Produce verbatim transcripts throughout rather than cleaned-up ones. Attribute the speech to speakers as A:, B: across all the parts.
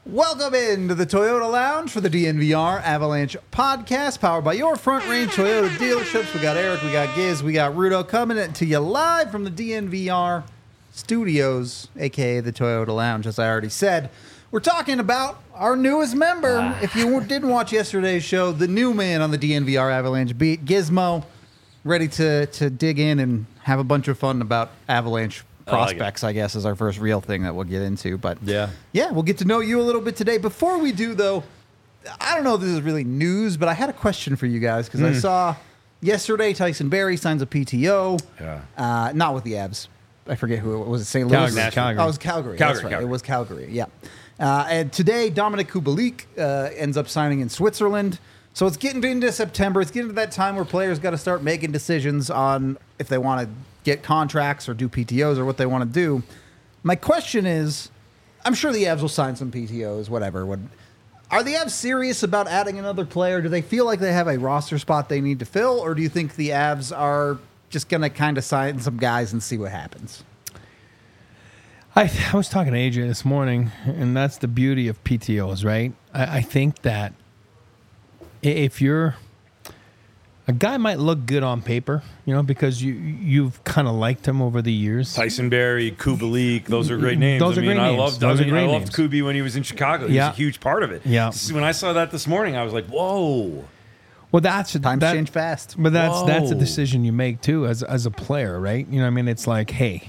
A: Welcome into the Toyota Lounge for the D N V R Avalanche podcast, powered by your Front Range Toyota dealerships. We got Eric, we got Giz, we got Rudo coming to you live from the D N V R studios, a k a the Toyota Lounge, as I already said. We're talking about our newest member. Ah. If you didn't watch yesterday's show, the new man on the D N V R Avalanche beat, Gizmo, ready to, to dig in and have a bunch of fun about Avalanche prospects, I, like I guess, is our first real thing that we'll get into. But yeah, yeah, we'll get to know you a little bit today. Before we do, though, I don't know if this is really news, but I had a question for you guys because mm. I saw yesterday Tyson Barrie signs a P T O. Yeah, uh, not with the Avs. I forget who it was. It Saint Louis?
B: Calgary. Calgary.
A: Oh, it was Calgary.
B: Calgary,
A: That's right.
B: Calgary.
A: It was Calgary. Yeah. Uh, and today, Dominic Kubalik uh, ends up signing in Switzerland. So it's getting into September. It's getting to that time where players got to start making decisions on if they want to get contracts or do P T Os or what they want to do. My question is, I'm sure the Avs will sign some P T Os, whatever. What, are the Avs serious about adding another player? Do they feel like they have a roster spot they need to fill? Or do you think the Avs are just going to kind of sign some guys and see what happens?
B: I, I was talking to A J this morning, and that's the beauty of P T Os, right? I, I think that if you're a guy might look good on paper, you know, because you you've kind of liked him over the years.
C: Tyson Barrie, Kubalik, those are great names.
B: Those are
C: I mean,
B: great
C: I
B: names.
C: loved,
B: Those
C: I, mean,
B: are great
C: I loved
B: names.
C: Kubi when he was in Chicago. He
B: Yeah.
C: was a huge part of it.
B: Yeah.
C: When I saw that this morning, I was like, "Whoa!"
B: Well, that's
A: Times
B: that,
A: change fast.
B: But that's
C: Whoa.
B: that's a decision you make too as as a player, right? You know, what I mean, it's like, hey,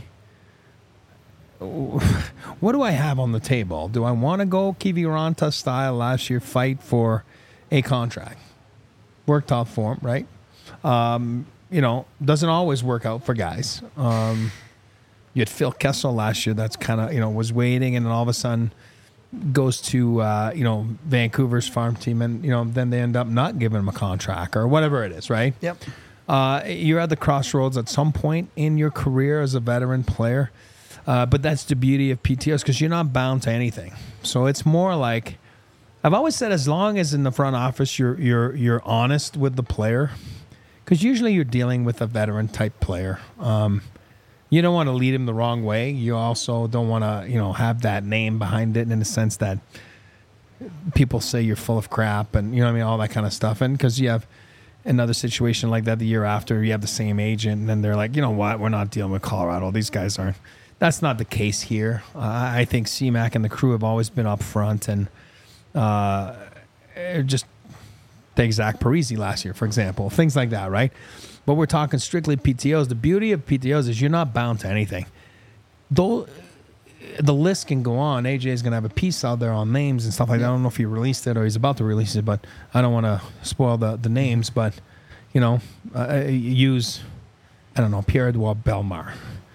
B: what do I have on the table? Do I want to go Kiviranta style last year, fight for a contract? Worked out for him, right? Um, you know, doesn't always work out for guys. Um, you had Phil Kessel last year. That's kind of, you know, was waiting, and then all of a sudden goes to uh, you know, Vancouver's farm team, and you know, then they end up not giving him a contract or whatever it is, right?
A: Yep.
B: Uh, you're at the crossroads at some point in your career as a veteran player. Uh, but that's the beauty of P T Os because you're not bound to anything. So it's more like, I've always said, as long as in the front office you're you're you're honest with the player, because usually you're dealing with a veteran type player. Um, you don't want to lead him the wrong way. You also don't want to, you know, have that name behind it in the sense that people say you're full of crap and, you know what I mean, all that kind of stuff. And because you have another situation like that the year after, you have the same agent, and then they're like, you know what, we're not dealing with Colorado. These guys aren't. That's not the case here. Uh, I think C MAC and the crew have always been up front, and uh, just take Zach Parise last year, for example, things like that, right? But we're talking strictly P T Os. The beauty of P T Os is you're not bound to anything. Though the list can go on. A J is going to have a piece out there on names and stuff like that. I don't know if he released it or he's about to release it, but I don't want to spoil the, the names. But, you know, uh, use, I don't know, Pierre-Edouard Bellemare.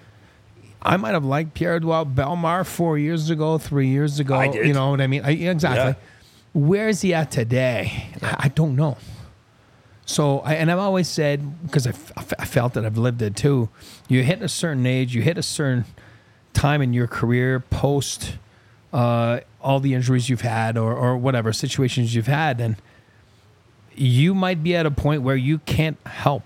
B: I might have liked Pierre-Edouard Bellemare four years ago, three years ago.
C: I did.
B: You know what I mean? I, exactly.
C: Yeah.
B: Where is he at today? I, I don't know. So, I, and I've always said, because I, f- I felt that I've lived it too, you hit a certain age, you hit a certain time in your career, post uh, all the injuries you've had or, or whatever situations you've had, and you might be at a point where you can't help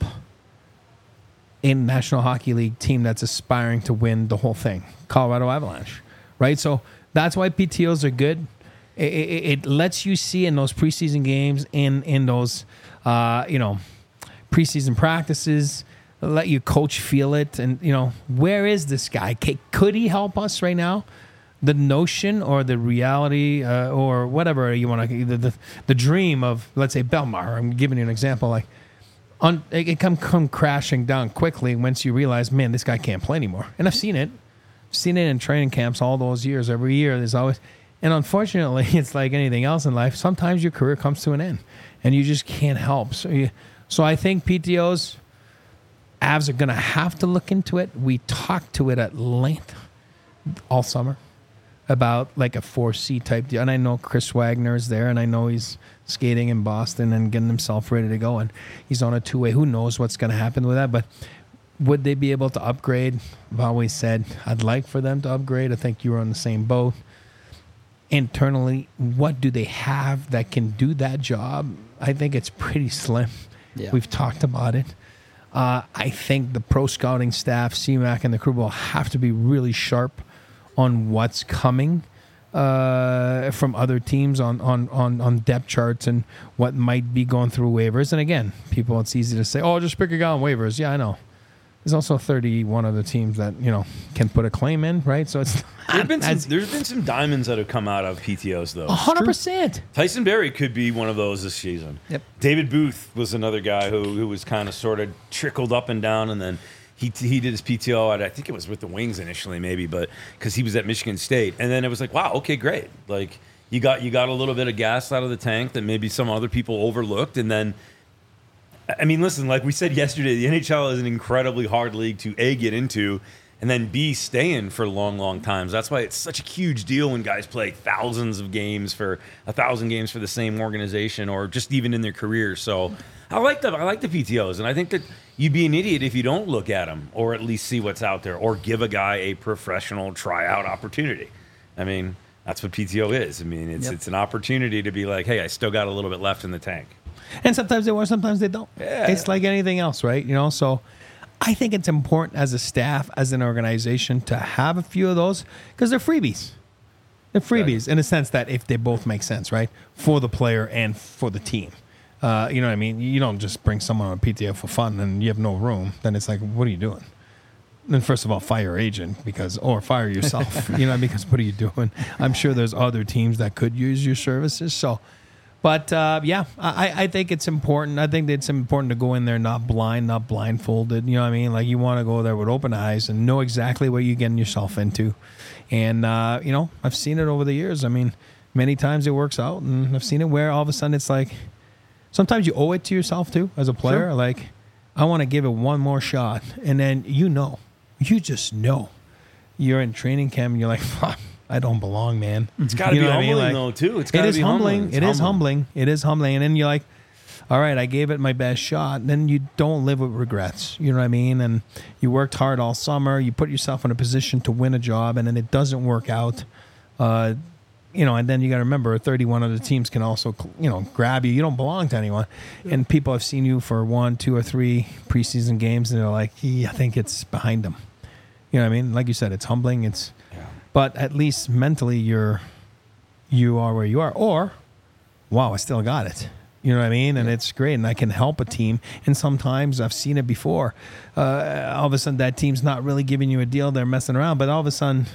B: in National Hockey League team that's aspiring to win the whole thing, Colorado Avalanche, right? So that's why P T Os are good. It, it, it lets you see in those preseason games, in in those uh, you know preseason practices, let your coach feel it, and you know, where is this guy? Could he help us right now? The notion or the reality uh, or whatever you want to, the, the the dream of, let's say, Bellemare. I'm giving you an example, like. On, it can come, come crashing down quickly once you realize, man, this guy can't play anymore. And I've seen it. I've seen it in training camps all those years. Every year there's always... And unfortunately, it's like anything else in life. Sometimes your career comes to an end, and you just can't help. So, you, so I think P T Os, Avs are going to have to look into it. We talked to it at length all summer about like a four C type deal. And I know Chris Wagner is there, and I know he's skating in Boston and getting himself ready to go, and he's on a two-way. Who knows what's going to happen with that? But would they be able to upgrade? I've always said I'd like for them to upgrade. I think you were on the same boat. Internally, what do they have that can do that job? I think it's pretty slim. Yeah. We've talked about it. Uh, I think the pro scouting staff, C MAC, and the crew will have to be really sharp on what's coming. uh, from other teams on, on, on, on depth charts and what might be going through waivers. And again, people, it's easy to say, oh, just pick a guy on waivers. Yeah, I know. There's also thirty-one other teams that, you know, can put a claim in, right? So it's
C: There's been, some,
B: as
C: there's been some diamonds that have come out of P T Os, though.
B: one hundred percent.
C: Tyson Berry could be one of those this season.
A: Yep.
C: David Booth was another guy who, who was kind of sort of trickled up and down, and then he he did his P T O at, I think it was with the Wings initially, maybe, but because he was at Michigan State. And then it was like, wow, okay, great. Like, you got you got a little bit of gas out of the tank that maybe some other people overlooked, and then I mean, listen, like we said yesterday, the N H L is an incredibly hard league to A, get into, and then B, stay in for long, long times. That's why it's such a huge deal when guys play thousands of games for a thousand games for the same organization, or just even in their careers. So I like the I like the P T Os, and I think that you'd be an idiot if you don't look at them or at least see what's out there, or give a guy a professional tryout opportunity. I mean, that's what P T O is. I mean, it's
A: Yep.
C: it's an opportunity to be like, hey, I still got a little bit left in the tank.
B: And sometimes they work, sometimes they don't.
C: Yeah.
B: It's like anything else, right? You know, so I think it's important as a staff, as an organization, to have a few of those because they're freebies. They're freebies in a sense that if they both make sense, right, for the player and for the team. Uh, you know what I mean? You don't just bring someone on a P T O for fun and you have no room. Then it's like, what are you doing? Then first of all, fire your agent because, or fire yourself. You know, because what are you doing? I'm sure there's other teams that could use your services. So. But, uh, yeah, I, I think it's important. I think it's important to go in there not blind, not blindfolded. You know what I mean? Like, you want to go there with open eyes and know exactly what you're getting yourself into. And, uh, you know, I've seen it over the years. I mean, many times it works out. And I've seen it where all of a sudden it's like sometimes you owe it to yourself, too, as a player.
A: Sure.
B: Like, I want to give it one more shot. And then you know. You just know. You're in training camp and you're like, fuck. I don't belong, man.
C: It's got to
B: You
C: be
B: know what I
C: humbling,
B: mean? Like,
C: though, too. It's
B: It
C: gotta
B: is
C: be
B: humbling.
C: It's
B: It is humbling. It is humbling. And then you're like, all right, I gave it my best shot. Then you don't live with regrets. You know what I mean? And you worked hard all summer. You put yourself in a position to win a job, and then it doesn't work out. Uh, you know, and then you got to remember, thirty-one other teams can also, you know, grab you. You don't belong to anyone. And people have seen you for one, two, or three preseason games, and they're like, yeah, I think it's behind them. You know what I mean? Like you said, it's humbling. It's But at least mentally, you're you are where you are. Or, wow, I still got it. You know what I mean? And yeah. It's great, and I can help a team. And sometimes I've seen it before. Uh, all of a sudden, that team's not really giving you a deal; they're messing around. But all of a sudden,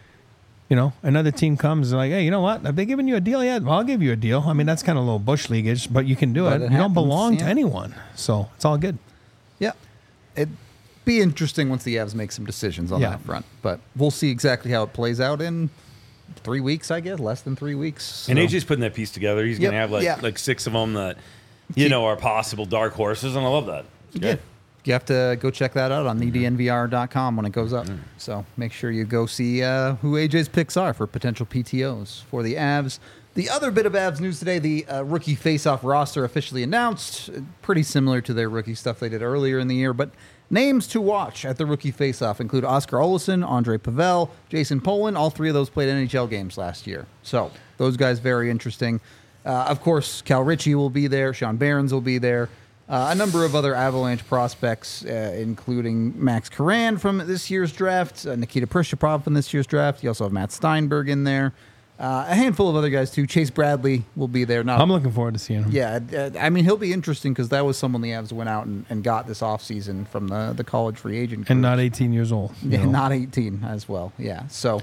B: you know, another team comes and like, hey, you know what? Have they given you a deal yet? Well, I'll give you a deal. I mean, that's kind of a little bush leagueish, but you can do
A: But
B: it.
A: it
B: You
A: happens,
B: don't belong
A: yeah.
B: to anyone, so it's all good.
A: Yeah. It'd be interesting once the Avs make some decisions on
B: Yeah.
A: that front. But we'll see exactly how it plays out in three weeks, I guess, less than three weeks.
C: And
A: So-
C: A J's putting that piece together. He's
A: Yep,
C: going to have like
A: yeah.
C: like six of them that, you
A: Keep-
C: know, are possible dark horses, and I love that. It's
A: Yeah.
C: good.
A: You have to go check that out on the D N V R dot com when it goes up. So make sure you go see uh, who A J's picks are for potential P T Os for the Avs. The other bit of Avs news today, the uh, rookie face-off roster officially announced. Uh, Pretty similar to their rookie stuff they did earlier in the year, but names to watch at the rookie face-off include Oscar Olesen, Andre Pavel, Jason Polin. All three of those played N H L games last year. So those guys, very interesting. Uh, of course, Cal Ritchie will be there. Sean Barons will be there. Uh, a number of other Avalanche prospects, uh, including Max Karan from this year's draft, uh, Nikita Prishapov from this year's draft. You also have Matt Steinberg in there. Uh, a handful of other guys, too. Chase Bradley will be there. Not,
B: I'm looking forward to seeing him.
A: yeah, uh, I mean, he'll be interesting because that was someone the Avs went out and, and got this offseason from the, the college free agent
B: And
A: group.
B: not eighteen years old. you
A: Yeah,
B: know.
A: not eighteen as well. Yeah, so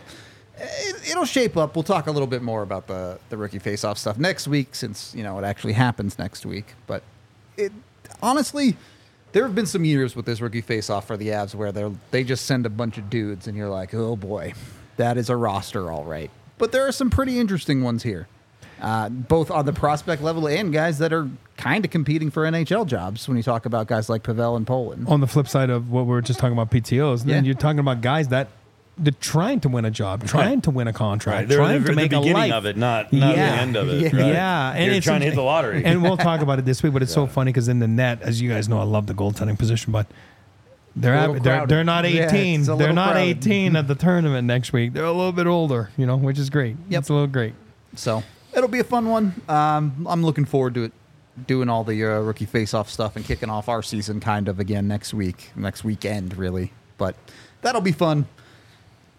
A: it, it'll shape up. We'll talk a little bit more about the the rookie face-off stuff next week, since you know it actually happens next week. But it honestly, there have been some years with this rookie face-off for the Avs where they they just send a bunch of dudes, and you're like, oh boy, that is a roster, all right. But there are some pretty interesting ones here, uh, both on the prospect level and guys that are kind of competing for N H L jobs. When you talk about guys like Pavel and Poland.
B: On the flip side of what we were just talking about P T Os, then
A: Yeah.
B: you're talking about guys that they're trying to win a job, trying to win a contract,
C: Right. They're
B: trying
C: the,
B: to
C: the
B: make a
C: beginning
B: life.
C: of it, not, not
B: Yeah.
C: the end of it.
A: Yeah.
C: Right?
B: Yeah, and
C: You're
B: it's
C: trying to hit the lottery.
B: And we'll talk about it this week, but it's so funny because in the net, as you guys know, I love the goaltending position, but they're
A: A little
B: at, they're,
A: crowded.
B: they're not
A: Yeah,
B: eighteen.
A: it's a
B: they're
A: little
B: not
A: crowded.
B: eighteen at the tournament next week. They're a little bit older, you know, which is great.
A: Yep.
B: It's a little great.
A: So it'll be a fun one. Um, I'm looking forward to it, doing all the uh, rookie face-off stuff and kicking off our season kind of again next week, next weekend, really. But that'll be fun.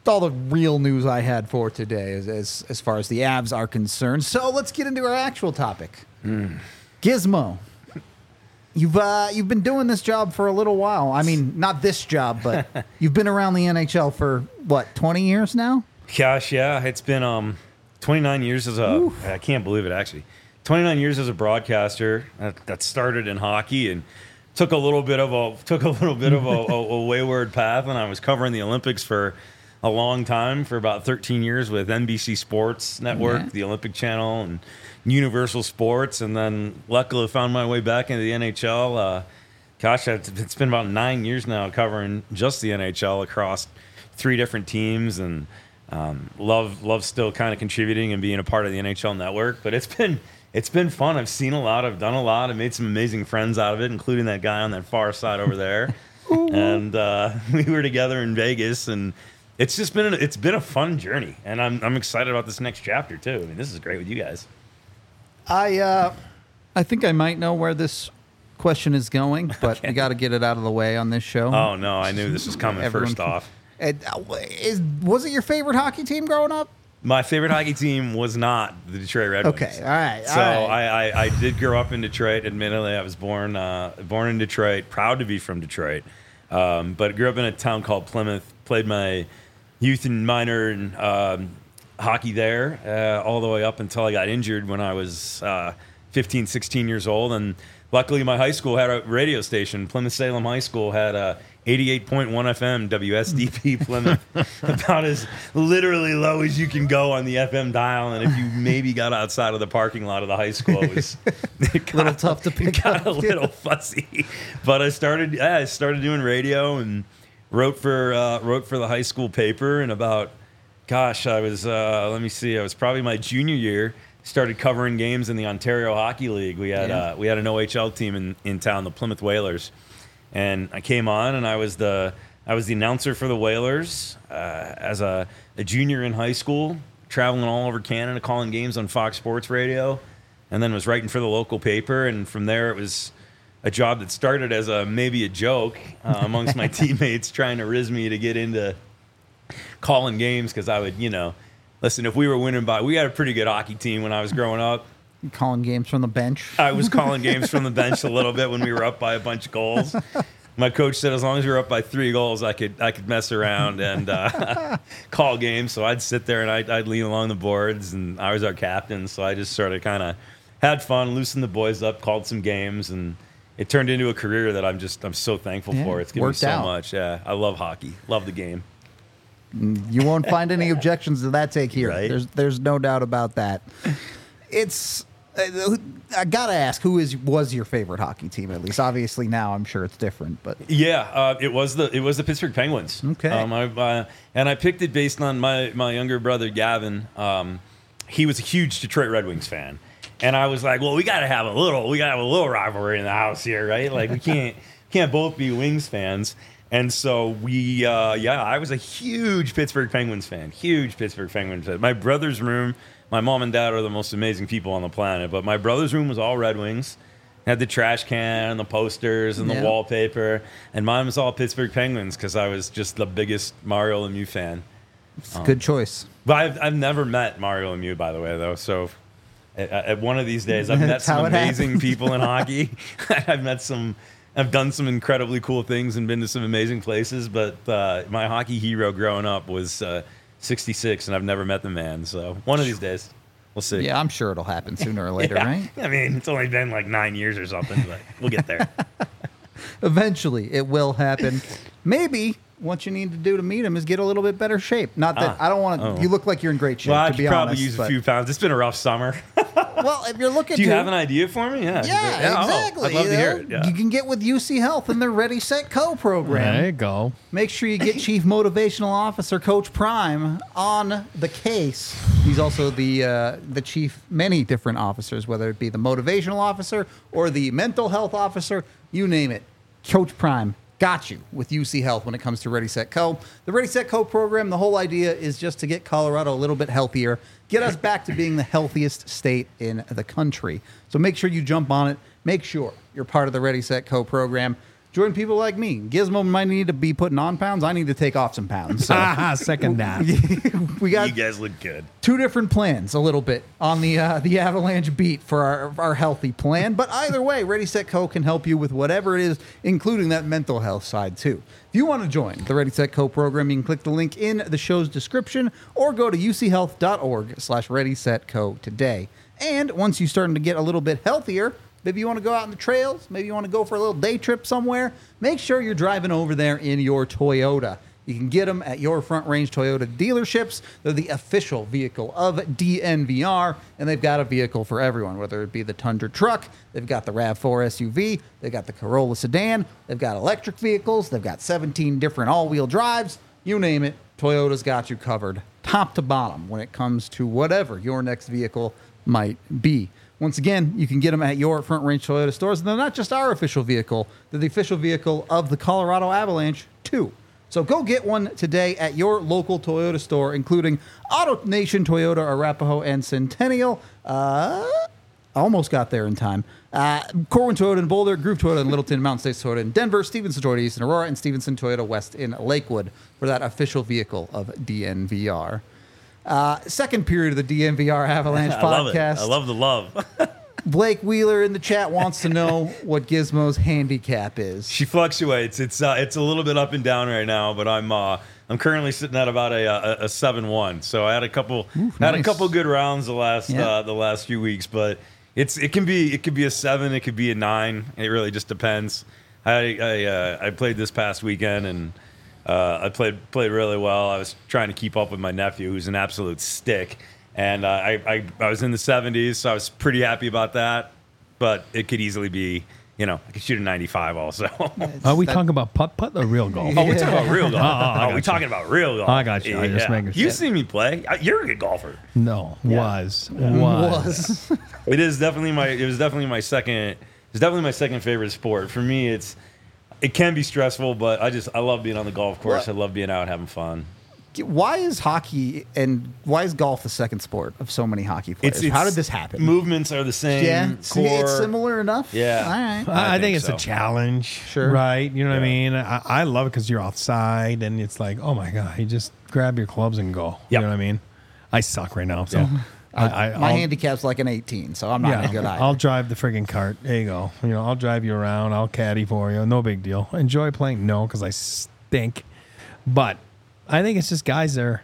A: all the real news I had for today as, as, as far as the Avs are concerned. So let's get into our actual topic. Mm. Gizmo. You've uh, you've been doing this job for a little while. I mean, not this job, but you've been around the N H L for, what, twenty years now?
C: Gosh, yeah. It's been um, twenty-nine years as a... Oof. I can't believe it, actually. twenty-nine years as a broadcaster. That, that started in hockey and took a little bit of a took a little bit of a, a, a wayward path. And I was covering the Olympics for a long time, for about thirteen years with N B C Sports Network, yeah. the Olympic Channel, and Universal Sports, and then luckily found my way back into the N H L. Uh, gosh, it's been about nine years now covering just the N H L across three different teams, and um, love love still kind of contributing and being a part of the N H L network. But it's been it's been fun. I've seen a lot. I've done a lot. I've made some amazing friends out of it, including that guy on that far side over there. and uh, we were together in Vegas, and it's just been a, it's been a fun journey, and I'm I'm excited about this next chapter too. I mean, this is great with you guys.
A: I uh, I think I might know where this question is going, but okay. we got to get it out of the way on this show.
C: Oh no, I knew this was coming first off.
A: It, is was it your favorite hockey team growing up?
C: My favorite hockey team was not the Detroit Red Wings.
A: Okay, all right.
C: So
A: all right.
C: I, I, I did grow up in Detroit. Admittedly, I was born uh, born in Detroit. Proud to be from Detroit, um, but grew up in a town called Plymouth. Played my youth and minor and um, hockey there uh, all the way up until I got injured when I was uh, fifteen, sixteen years old. And luckily, my high school had a radio station. Plymouth-Salem High School had a eighty-eight point one F M, W S D P Plymouth, about as literally low as you can go on the F M dial. And if you maybe got outside of the parking lot of the high school, it was
A: it got, a little tough to pick
C: it got
A: up.
C: a little fuzzy. But I started, yeah, I started doing radio and wrote for uh, wrote for the high school paper. And about, gosh, I was, uh, let me see, I was probably my junior year. Started covering games in the Ontario Hockey League. We had yeah. uh, we had an O H L team in, in town, the Plymouth Whalers. And I came on, and I was the I was the announcer for the Whalers uh, as a, a junior in high school, traveling all over Canada, calling games on Fox Sports Radio, and then was writing for the local paper. And from there, it was a job that started as a maybe a joke uh, amongst my teammates, trying to riz me to get into calling games because I would, you know, listen. If we were winning by, we had a pretty good hockey team when I was growing up.
A: Calling games from the bench.
C: I was calling games from the bench a little bit when we were up by a bunch of goals. My coach said as long as we were up by three goals, I could I could mess around and uh, call games. So I'd sit there and I'd, I'd lean along the boards, and I was our captain. So I just sort of kind of had fun, loosened the boys up, called some games, and it turned into a career that I'm just I'm so thankful
A: yeah,
C: for. It's given me so
A: out.
C: much. Yeah, I love hockey, love the game.
A: You won't find any objections to that take here.
C: Right?
A: There's there's no doubt about that. It's. I gotta ask, who is was your favorite hockey team? At least, obviously, now I'm sure it's different. But
C: yeah, uh, it was the it was the Pittsburgh Penguins.
A: Okay,
C: um, I, uh, and I picked it based on my my younger brother Gavin. Um, he was a huge Detroit Red Wings fan, and I was like, well, we gotta have a little we gotta have a little rivalry in the house here, right? Like we can't can't both be Wings fans. And so we, uh, yeah, I was a huge Pittsburgh Penguins fan, huge Pittsburgh Penguins fan. My brother's room. My mom and dad are the most amazing people on the planet, but my brother's room was all Red Wings. Had the trash can and the posters and the
A: yeah.
C: wallpaper, and mine was all Pittsburgh Penguins because I was just the biggest Mario Lemieux fan.
A: It's a um, good choice.
C: But I've, I've never met Mario Lemieux, by the way, though. So at, at one of these days, I've met some amazing happens. people in hockey. I've met some, I've done some incredibly cool things and been to some amazing places. But uh, my hockey hero growing up was. Uh, sixty-six, and I've never met the man. So one of these days, we'll see.
A: Yeah, I'm sure it'll happen sooner or later,
C: yeah.
A: right?
C: I mean, it's only been like nine years or something, but we'll get there.
A: Eventually, it will happen. Maybe what you need to do to meet him is get a little bit better shape. Not that
C: ah,
A: I don't want to.
C: oh.
A: You look like you're in great shape.
C: Well, I
A: to
C: could
A: be
C: probably
A: honest,
C: use a
A: but,
C: few pounds. It's been a rough summer.
A: Well, if you're looking,
C: do you
A: to,
C: have an idea for me? Yeah,
A: yeah,
C: yeah
A: exactly.
C: Oh, I'd love
A: you
C: to
A: know?
C: hear it. Yeah.
A: You can get with U C Health and their Ready Set Co program.
B: There you go.
A: Make sure you get Chief Motivational Officer Coach Prime on the case. He's also the uh, the chief, many different officers, whether it be the motivational officer or the mental health officer, you name it. Coach Prime got you with U C Health when it comes to Ready Set Co. The Ready Set Co program, the whole idea is just to get Colorado a little bit healthier, get us back to being the healthiest state in the country. So make sure you jump on it. Make sure you're part of the Ready Set Co program. join people like me. Gizmo might need to be putting on pounds. I need to take off some pounds. So
B: Ah, second that.
A: we got
C: You guys look good.
A: two different plans a little bit on the uh, the Avalanche beat for our, our healthy plan. But either way, Ready, Set, Co can help you with whatever it is, including that mental health side too. If you want to join the Ready, Set, Co program, you can click the link in the show's description or go to uchealth.org slash Ready, Set, Co today. And once you're starting to get a little bit healthier, maybe you want to go out on the trails, maybe you want to go for a little day trip somewhere, make sure you're driving over there in your Toyota. You can get them at your Front Range Toyota dealerships. They're the official vehicle of D N V R, and they've got a vehicle for everyone, whether it be the Tundra truck, they've got the RAV four S U V, they've got the Corolla sedan, they've got electric vehicles, they've got seventeen different all-wheel drives, you name it, Toyota's got you covered, top to bottom, when it comes to whatever your next vehicle might be. Once again, you can get them at your Front Range Toyota stores. And they're not just our official vehicle, they're the official vehicle of the Colorado Avalanche, too. So go get one today at your local Toyota store, including Auto Nation, Toyota, Arapahoe, and Centennial. Uh, almost got there in time. Uh, Corwin Toyota in Boulder, Groove Toyota in Littleton, Mountain States Toyota in Denver, Stevenson Toyota East in Aurora, and Stevenson Toyota West in Lakewood for that official vehicle of D N V R. Uh, second period of the D N V R Avalanche
C: I love it.
A: podcast.
C: I love the love.
A: Blake Wheeler in the chat wants to know what Gizmo's handicap is.
C: She fluctuates. It's uh, it's a little bit up and down right now, but I'm uh, I'm currently sitting at about a a, a seven one. So I had a couple
A: Ooh,
C: had a
A: nice.
C: couple good rounds the last
A: Yeah.
C: uh, the last few weeks, but it's it can be it could be a seven, it could be a nine. It really just depends. I I, uh, I played this past weekend and uh, I played played really well. I was trying to keep up with my nephew, who's an absolute stick. And uh, I, I I was in the seventies, so I was pretty happy about that. But it could easily be, you know, I could shoot a ninety-five also.
B: Are we
A: That-
B: talking about putt putt or real golf?
C: Oh, we're talking about real golf.
B: Oh, oh, I
C: oh,
B: got
C: we're
B: you.
C: talking about real golf.
B: I got you. I just making
C: You
B: sure.
C: see me play. Uh, You're a good golfer.
B: No,
C: Yeah.
B: was was.
A: Was.
C: It is definitely my. It was definitely my second. It's definitely my second favorite sport. For me, it's. It can be stressful, but I just I love being on the golf course.
A: What?
C: I love being out having fun.
A: Why is hockey and why is golf the second sport of so many hockey players? How did this happen?
C: Movements are the same.
A: yeah, see, it's
C: core.
A: similar enough.
C: Yeah.
A: All right.
B: I, I
C: I
B: think,
C: think
B: it's
C: so.
B: a challenge.
A: Sure.
B: Right. You know what I
C: Yeah.
B: mean? I, I love it because you're outside and it's like, oh my God, you just grab your clubs and go. You
C: Yep.
B: know what I mean? I suck right now. So
C: Yeah.
B: I, I,
A: My
B: I'll-
A: handicap's like an eighteen, so I'm not
B: yeah,
A: a good either.
B: I'll drive the friggin' cart. There you go. You know, I'll drive you around. I'll caddy for you. No big deal. Enjoy playing? No, because I stink. But I think it's just guys that are.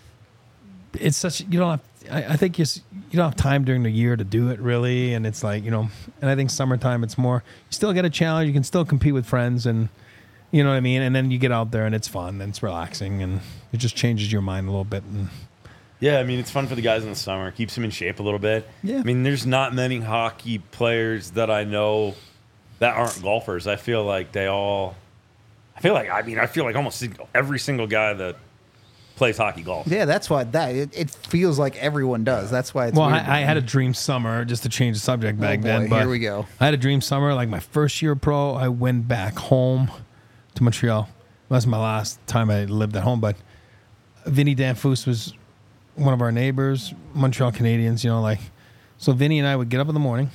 B: It's such you don't have. I, I think you s- you don't have time during the year to do it really, and it's like you know. And I think summertime it's more. You still get a challenge. You can still compete with friends, and you know what I mean. And then you get out there and it's fun and it's relaxing, and it just changes your mind a little bit. And
C: Yeah, I mean, it's fun for the guys in the summer. Keeps them in shape a little bit.
A: Yeah.
C: I mean, there's not many hockey players that I know that aren't golfers. I feel like they all. I feel like I mean I feel like almost every single guy that plays hockey golf.
A: yeah, that's why that it, it feels like everyone does. That's why it's
B: well,
A: weird.
B: I, I had a dream summer just to change the subject back
A: boy,
B: then. But
A: here we go.
B: I had a dream summer. Like my first year pro, I went back home to Montreal. That's my last time I lived at home. But Vinny Danfus was one of our neighbors, Montreal Canadiens. You know, like so. Vinny and I would get up in the morning.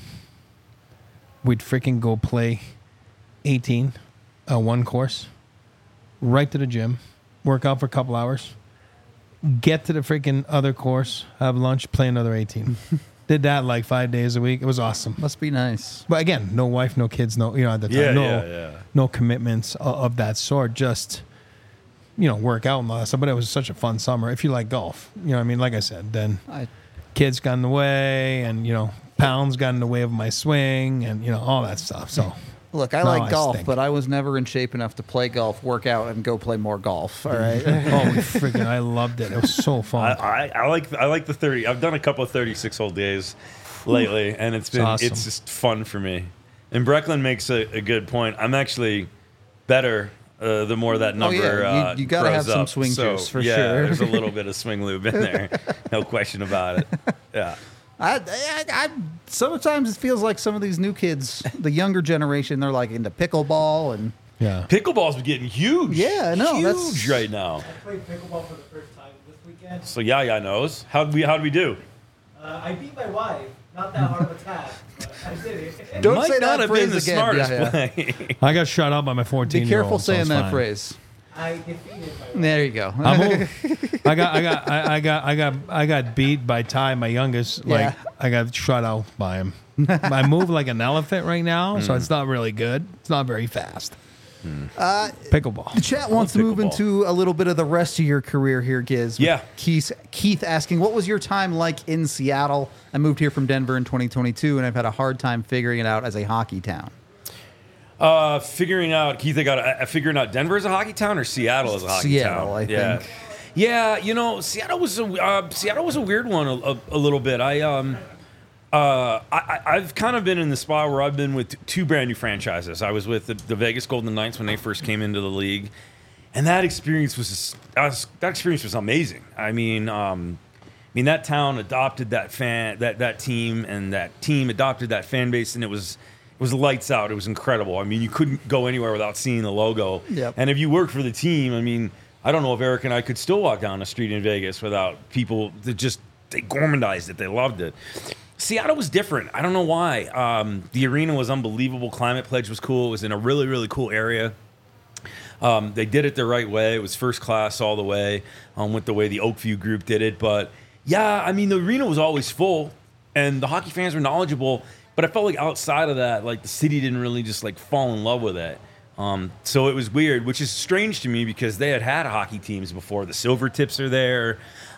B: We'd freaking go play eighteen, uh, one course, right to the gym, work out for a couple hours. Get to the freaking other course, have lunch, play another eighteen. Did that like five days a week. It was awesome.
A: Must be nice.
B: But again, no wife, no kids, no you know at the time,
C: Yeah,
B: no
C: yeah, yeah.
B: no commitments of, of that sort. Just you know, work out and all that stuff. But it was such a fun summer. If you like golf, you know, what I mean, like I said, then
A: I,
B: kids got in the way, and you know, pounds got in the way of my swing, and you know, all that stuff. So
A: look, I
B: No,
A: like
B: I
A: golf,
B: stink.
A: but I was never in shape enough to play golf, work out, and go play more golf. All right.
B: oh, we freaking, I loved it. It was so
C: I,
B: fun.
C: I, I like I like the thirty. I've done a couple of thirty-six hole days lately, and it's been
B: awesome.
C: it's just fun for me. And Brecklin makes a, a good point. I'm actually better uh, the more that number.
A: Oh, yeah. You-
C: uh,
A: you gotta
C: grows
A: have some
C: up.
A: swing
C: So,
A: juice, for
C: yeah,
A: sure.
C: There's a little bit of swing lube in there, no question about it. Yeah.
A: I, I, I sometimes it feels like some of these new kids, the younger generation, they're like into pickleball and
B: yeah.
C: Pickleball's getting huge.
A: Yeah, I know,
C: Huge
A: that's-
C: right now.
D: I played pickleball for the first time this weekend.
C: So Yaya knows. How we how do we do?
D: Uh, Uh, I beat my wife. Not that hard of a task, but I did it.
A: Don't
C: Might
A: say
C: not
A: that
C: have
A: phrase
C: been the
A: again.
C: smartest
A: Yeah, yeah.
C: play.
B: I got shut out by my fourteen.
A: Be careful saying that phrase.
D: I defeated my wife.
A: There you go.
B: I'm old. I got, I got, I, I got, I got, I got beat by Ty, my youngest. Like
A: Yeah.
B: I got shut out by him. I move like an elephant right now, so it's not really good. It's not very fast.
A: Uh,
B: Pickleball.
A: The chat wants to move
C: pickleball.
A: into a little bit of the rest of your career here, Giz.
C: Yeah.
A: Keith, Keith asking, what was your time like in Seattle? I moved here from Denver in twenty twenty-two, and I've had a hard time figuring it out as a hockey town.
C: Uh, figuring out, Keith, I got uh, figuring out Denver as a hockey town or Seattle as a hockey
A: Seattle,
C: town.
A: I
C: yeah.
A: think.
C: Yeah, you know, Seattle was a uh, Seattle was a weird one a, a, a little bit. I um. Uh, I, I've kind of been in the spot where I've been with two brand new franchises. I was with the, the Vegas Golden Knights when they first came into the league, and that experience was, just, that, was that experience was amazing. I mean, um, I mean that town adopted that fan that that team, and that team adopted that fan base, and it was it was lights out. It was incredible. I mean, you couldn't go anywhere without seeing the logo.
A: Yep.
C: And if you worked for the team, I mean, I don't know if Eric and I could still walk down the street in Vegas without people that just they gormandized it. They loved it. Seattle was different. I don't know why. Um, the arena was unbelievable. Climate Pledge was cool. It was in a really, really cool area. Um, they did it the right way. It was first class all the way um, with the way the Oakview group did it. But, yeah, I mean, the arena was always full, and the hockey fans were knowledgeable. But I felt like outside of that, like, the city didn't really just, like, fall in love with it. Um, so it was weird, which is strange to me because they had had hockey teams before. The Silvertips are there.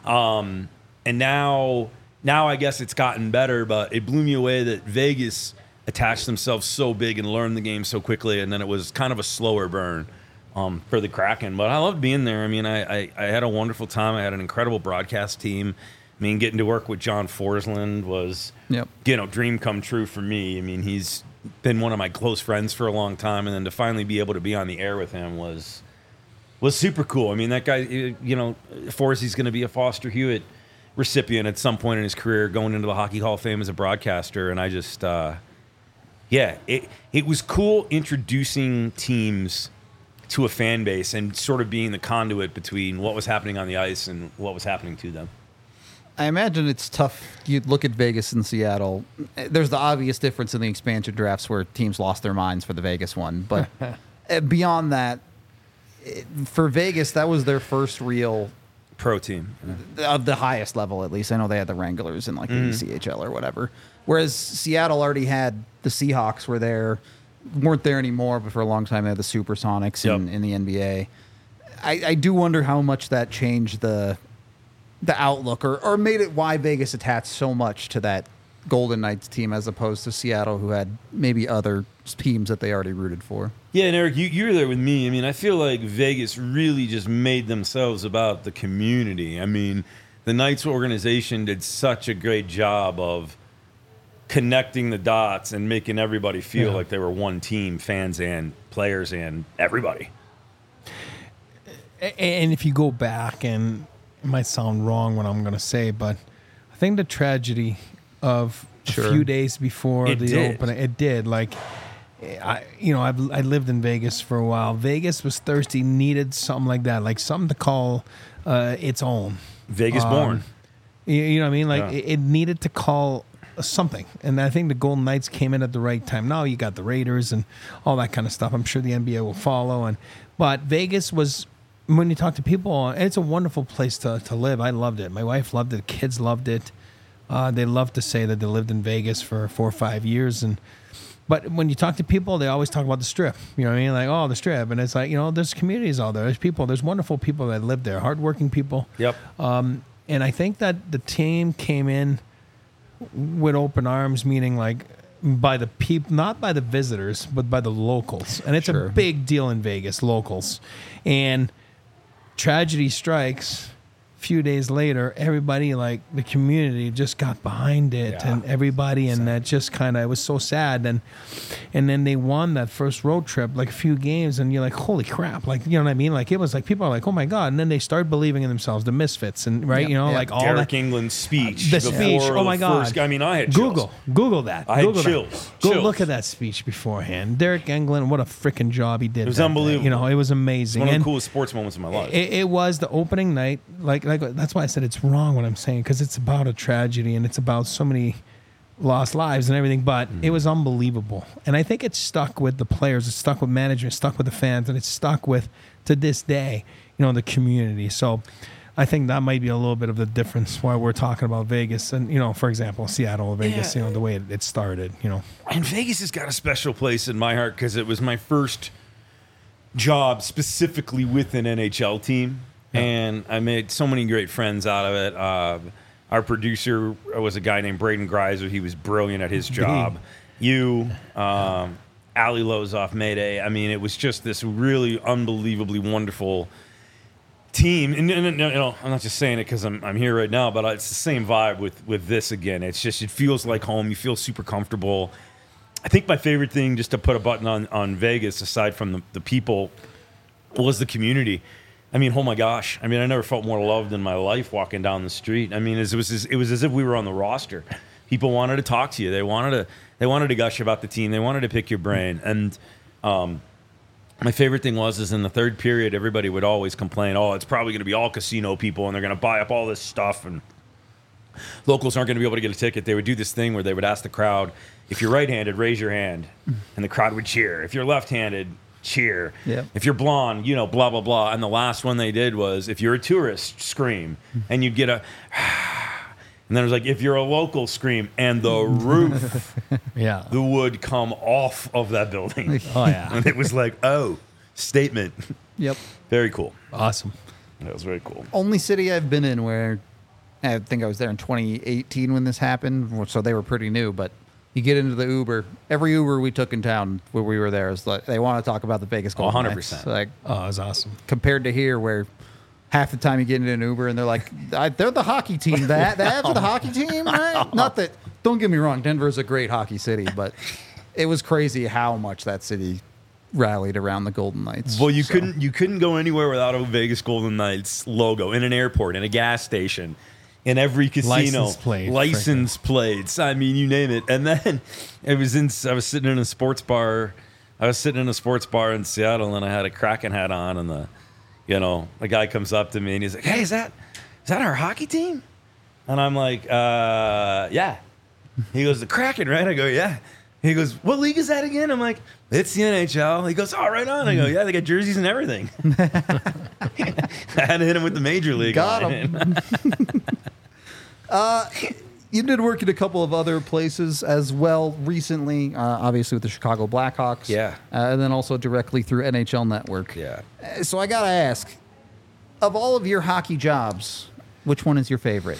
C: Um, and now... Now I guess it's gotten better, but it blew me away that Vegas attached themselves so big and learned the game so quickly, and then it was kind of a slower burn um, for the Kraken. But I loved being there. I mean, I, I, I had a wonderful time. I had an incredible broadcast team. I mean, getting to work with John Forsland was,
A: Yep.
C: you know, dream come true for me. I mean, he's been one of my close friends for a long time, and then to finally be able to be on the air with him was was super cool. I mean, that guy, you know, Forsey's going to be a Foster Hewitt recipient at some point in his career, going into the Hockey Hall of Fame as a broadcaster, and I just, uh, yeah, it it was cool introducing teams to a fan base and sort of being the conduit between what was happening on the ice and what was happening to them.
A: I imagine it's tough. You look at Vegas and Seattle. There's the obvious difference in the expansion drafts where teams lost their minds for the Vegas one. But beyond that, it, for Vegas, that was their first real...
C: Pro team.
A: of the highest level, at least. I know they had the Wranglers in like the
C: Mm.
A: E C H L or whatever. Whereas Seattle already had the Seahawks were there, weren't there anymore, but for a long time they had the Supersonics in,
C: Yep.
A: in the N B A. I, I do wonder how much that changed the the outlook or, or made it why Vegas attached so much to that Golden Knights team as opposed to Seattle, who had maybe other teams that they already rooted for.
C: Yeah, and Eric, you, you were there with me. I mean, I feel like Vegas really just made themselves about the community. I mean, the Knights organization did such a great job of connecting the dots and making everybody feel
B: Yeah.
C: like they were one team, fans and players and everybody.
B: A- And if you go back, and it might sound wrong what I'm going to say, but I think the tragedy of
A: Sure.
B: a few days before
C: It
B: the
C: did.
B: opening, it did. Like, I, you know, I've I lived in Vegas for a while. Vegas was thirsty, needed something like that, like something to call uh, its own.
C: Vegas
B: Um,
C: born.
B: You, you know what I mean? Like
C: Yeah.
B: it, it needed to call something, and I think the Golden Knights came in at the right time. Now you got the Raiders and all that kind of stuff. I'm sure the N B A will follow, and but Vegas was. When you talk to people, it's a wonderful place to, to live. I loved it. My wife loved it. Kids loved it. Uh, they love to say that they lived in Vegas for four or five years. And but when you talk to people, they always talk about the Strip. You know what I mean? Like, oh, the Strip. And it's like, you know, there's communities out there. There's people. There's wonderful people that live there. Hardworking people.
C: Yep.
B: Um, and I think that the team came in with open arms, meaning like by the people, not by the visitors, but by the locals. And it's
A: Sure.
B: a big deal in Vegas, locals. And tragedy strikes. A few days later, everybody, like the community, just got behind it,
C: Yeah.
B: and everybody, and that just kind of it was so sad. And and then they won that first road trip, like a few games, and you're like, holy crap, like you know what I mean? Like it was like people are like, oh my god, and then they start believing in themselves, the misfits, and right,
A: Yep.
B: you know,
A: Yep.
B: like all
C: Derek
B: that.
C: England's speech.
B: The
C: before
B: speech. Oh my
C: the
B: God!
C: first- I mean, I had
B: Google,
C: chills.
B: Google that.
C: I had
B: Google that.
C: chills.
B: Go
C: Chills.
B: look at that speech beforehand. Derek England, what a freaking job he did.
C: It was
B: that day.
C: unbelievable.
B: You know, it was amazing.
C: One of the
B: And
C: coolest sports moments of my life.
B: It, it was the opening night. Like, like I go, that's why I said it's wrong what I'm saying, because it's about a tragedy and it's about so many lost lives and everything. But
C: Mm-hmm.
B: it was unbelievable, and I think it's stuck with the players, it's stuck with management, it's stuck with the fans, and it's stuck with to this day, you know, the community. So I think that might be a little bit of the difference why we're talking about Vegas and, you know, for example, Seattle or Vegas,
C: Yeah.
B: you know, the way it, it started, you know.
C: And Vegas has got a special place in my heart because it was my first job specifically with an N H L team.
B: Yeah.
C: And I made so many great friends out of it. Uh, our producer was a guy named Braden Greiser. He was brilliant at his job. You, um, Ali Lozoff, Mayday. I mean, it was just this really unbelievably wonderful team. And, and, and, you know, I'm not just saying it because I'm, I'm here right now, but it's the same vibe with, with this again. It's just, it feels like home. You feel super comfortable. I think my favorite thing, just to put a button on, on Vegas, aside from the, the people, was the community. I mean, oh my gosh. I mean, I never felt more loved in my life walking down the street. I mean, it was as, it was as if we were on the roster. People wanted to talk to you. They wanted to they wanted to gush about the team. They wanted to pick your brain. And um, my favorite thing was is in the third period, everybody would always complain, oh, it's probably going to be all casino people, and they're going to buy up all this stuff, and locals aren't going to be able to get a ticket. They would do this thing where they would ask the crowd, if you're right-handed, raise your hand, and the crowd would cheer. If you're left-handed, cheer.
A: Yep.
C: If you're blonde, you know, blah, blah, blah. And the last one they did was, if you're a tourist, scream. And you'd get a... And then it was like, if you're a local, scream. And the roof,
B: Yeah.
C: the wood come off of that building.
B: Oh, yeah.
C: And it was like, oh, statement.
A: Yep.
C: Very cool.
B: Awesome.
C: That was very cool.
A: Only city I've been in where I think I was there in twenty eighteen when this happened, so they were pretty new. But you get into the Uber, every Uber we took in town where we were there is like they want to talk about the Vegas Golden
C: one hundred
A: Knights.
C: percent.
A: Like
B: Oh, it was awesome.
A: compared to here where half the time you get into an Uber and they're like, I, they're the hockey team. That that's the hockey team, right? Not that. Don't get me wrong, Denver's a great hockey city, but it was crazy how much that city rallied around the Golden Knights.
C: Well, you
A: So,
C: couldn't you couldn't go anywhere without a Vegas Golden Knights logo in an airport, in a gas station, in every casino,
B: License plate,
C: license plates. I mean, you name it. And then it was in. I was sitting in a sports bar. I was sitting in a sports bar in Seattle, and I had a Kraken hat on, and the, you know, the guy comes up to me and he's like, "Hey, is that is that our hockey team?" And I'm like, uh, "Yeah." He goes, "The Kraken, right?" I go, "Yeah." He goes, "What league is that again?" I'm like, "It's the N H L." He goes, "Oh, right on." I go, "Yeah, they got jerseys and everything." I had to hit him with the major league.
A: Got
C: line.
A: him. uh, you did work at a couple of other places as well recently, uh, obviously with the Chicago Blackhawks.
C: Yeah.
A: Uh, and then also directly through N H L Network.
C: Yeah.
A: Uh, So I got to ask, of all of your hockey jobs, which one is your favorite?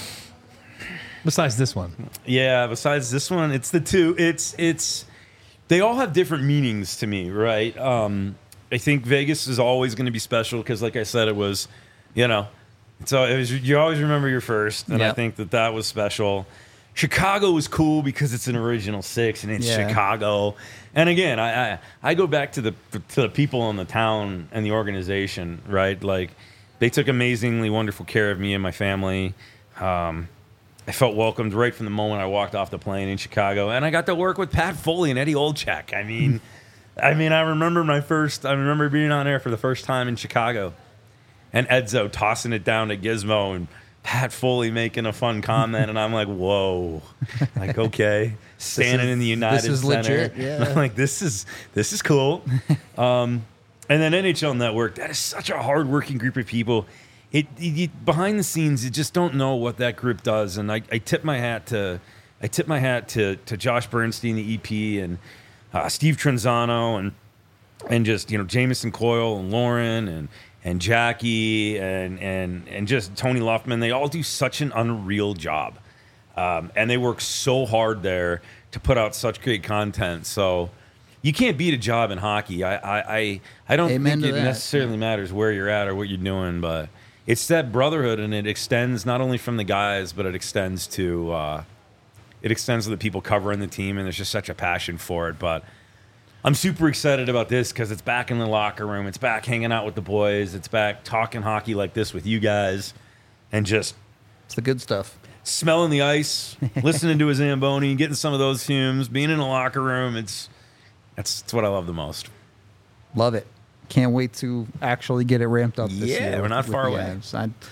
B: Besides this one.
C: Yeah, besides this one, it's the two. It's it's they all have different meanings to me, right? Um, I think Vegas is always going to be special because, like I said, it was, you know, so it was. You always remember your first, and I
A: Yep.
C: think that that was special. Chicago was cool because it's an original six and it's
A: Yeah.
C: Chicago. And again, I, I I go back to the to the people in the town and the organization, right? Like they took amazingly wonderful care of me and my family. Um, I felt welcomed right from the moment I walked off the plane in Chicago, and I got to work with Pat Foley and Eddie Olczyk. I mean, I mean, I remember my first. I remember being on air for the first time in Chicago, and Edzo tossing it down to Gizmo and Pat Foley making a fun comment, and I'm like, "Whoa!" Like, okay, standing
A: is-
C: in the United
A: this is
C: Center,
A: legit, yeah.
C: like this is this is cool. Um, and then N H L Network, that is such a hardworking group of people. It, it, it behind the scenes, you just don't know what that group does. And I, I tip my hat to, I tip my hat to to Josh Bernstein, the E P, and uh, Steve Trenzano, and and just you know Jameson Coyle and Lauren and and Jackie and and and just Tony Luffman. They all do such an unreal job, um, and they work so hard there to put out such great content. So. You can't beat a job in hockey. I I, I, I don't
A: Amen
C: think
A: to
C: it
A: that.
C: necessarily matters where you're at or what you're doing, but it's that brotherhood, and it extends not only from the guys, but it extends to uh, it extends to the people covering the team, and there's just such a passion for it. But I'm super excited about this because it's back in the locker room. It's back hanging out with the boys. It's back talking hockey like this with you guys, and just
A: It's the good stuff.
C: smelling the ice, listening to a Zamboni, getting some of those fumes, being in the locker room. It's that's, that's what I love the most.
A: Love it. Can't wait to actually get it ramped up this
C: Yeah,
A: year.
C: we're not
A: with
C: far
A: the
C: away.
A: Avs. I,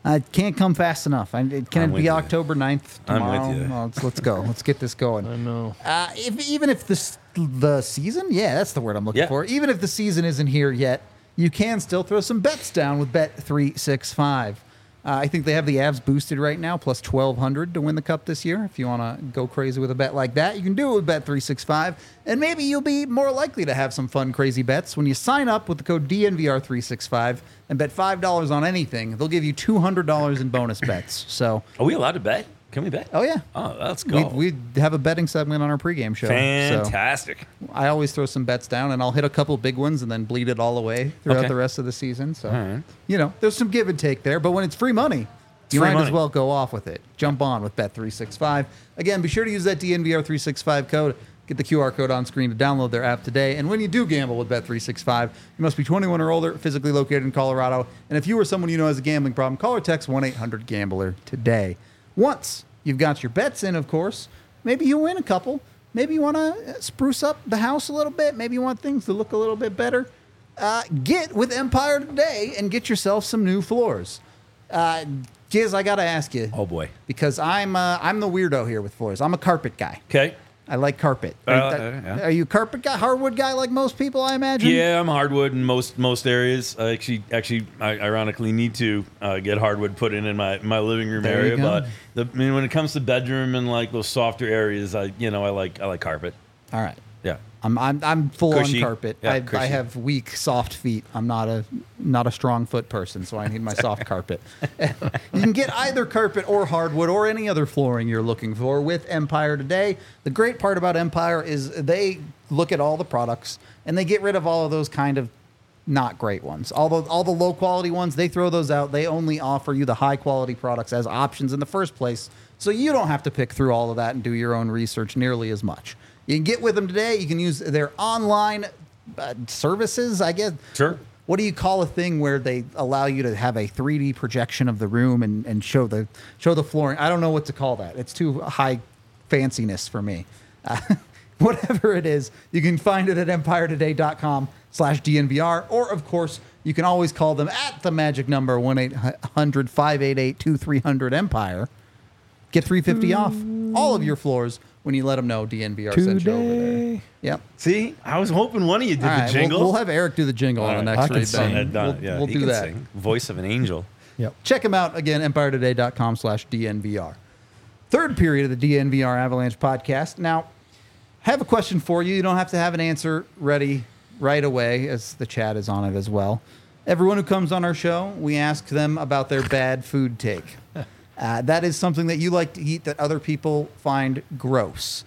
A: I can't come fast enough. I, it, can
C: I'm
A: it
C: with
A: be
C: you.
A: October ninth
C: I'm with
A: tomorrow?
C: you.
A: Well, let's, let's go. Let's get this going.
B: I know.
A: Uh, if, even if this, the season, yeah, that's the word I'm looking
C: Yeah.
A: for. Even if the season isn't here yet, you can still throw some bets down with Bet three sixty-five. Uh, I think they have the Avs boosted right now, plus twelve hundred to win the Cup this year. If you want to go crazy with a bet like that, you can do it with Bet three sixty-five. And maybe you'll be more likely to have some fun, crazy bets when you sign up with the code D N V R three sixty-five and bet five dollars on anything. They'll give you two hundred dollars in bonus bets. So,
C: Are we allowed to bet? Can we bet?
A: oh, yeah.
C: Oh, let's go.
A: We, we have a betting segment on our pregame show. So
C: Fantastic.
A: I always throw some bets down, and I'll hit a couple big ones and then bleed it all away throughout
C: Okay.
A: the rest of the season. So,
C: All right.
A: you know, there's some give and take there. But when it's free money, you
C: free
A: might as
C: money.
A: well go off with it. Jump on with Bet three sixty-five. Again, be sure to use that D N V R three sixty-five code. Get the Q R code on screen to download their app today. And when you do gamble with Bet three sixty-five, you must be twenty-one or older, physically located in Colorado. And if you or someone you know has a gambling problem, call or text one eight hundred gambler today. Once you've got your bets in, of course, maybe you win a couple. Maybe you want to spruce up the house a little bit. Maybe you want things to look a little bit better. Uh, get with Empire today and get yourself some new floors. Uh, Giz, I got to ask you.
C: Oh, boy.
A: Because I'm uh, I'm the weirdo here with floors. I'm a carpet guy.
C: Okay.
A: I like carpet.
C: Uh,
A: Are,
C: uh, yeah.
A: are you a carpet guy, hardwood guy like most people, I imagine?
C: Yeah, I'm hardwood in most most areas. I actually, actually, I ironically need to uh, get hardwood put in in my, my living room
A: There you
C: area.
A: go.
C: But the, I mean, when it comes to bedroom and like those softer areas, I you know I like I like carpet.
A: All right.
C: Yeah.
A: I'm I'm, I'm full
C: Cushy.
A: on carpet.
C: Yeah,
A: I, I
C: cushy.
A: have weak, soft feet. I'm not a not a strong foot person, so I need my soft carpet. You can get either carpet or hardwood or any other flooring you're looking for with Empire today. The great part about Empire is they look at all the products and they get rid of all of those kind of not great ones. All the all the low quality ones, they throw those out. They only offer you the high quality products as options in the first place, so you don't have to pick through all of that and do your own research nearly as much. You can get with them today. You can use their online uh, services, I guess.
C: Sure.
A: What do you call a thing where they allow you to have a three D projection of the room and, and show the show the flooring? I don't know what to call that. It's too high fanciness for me. Uh, whatever it is, you can find it at empire today dot com slash D N V R. Or, of course, you can always call them at the magic number one eight hundred five eight eight two three zero zero Empire. Get three hundred fifty dollars off all of your floors when you let them know D N V R sent you over there.
B: Today.
A: Yep.
C: See, I was hoping one of you did
A: All
C: the
A: right, we'll-
C: jingle.
A: We'll, have Eric do the jingle on the
C: All
A: next
B: I can
A: read.
B: sing.
A: then.
C: Done.
A: We'll,
C: Yeah,
A: we'll
C: he
A: do
C: can
A: that.
C: sing. Voice of an angel.
B: Yep.
A: Check them out again, empire today dot com slash D N V R. Third period of the D N V R Avalanche podcast. Now, I have a question for you. You don't have to have an answer ready right away, as the chat is on it as well. Everyone who comes on our show, we ask them about their bad food take. Uh, that is something that you like to eat that other people find gross.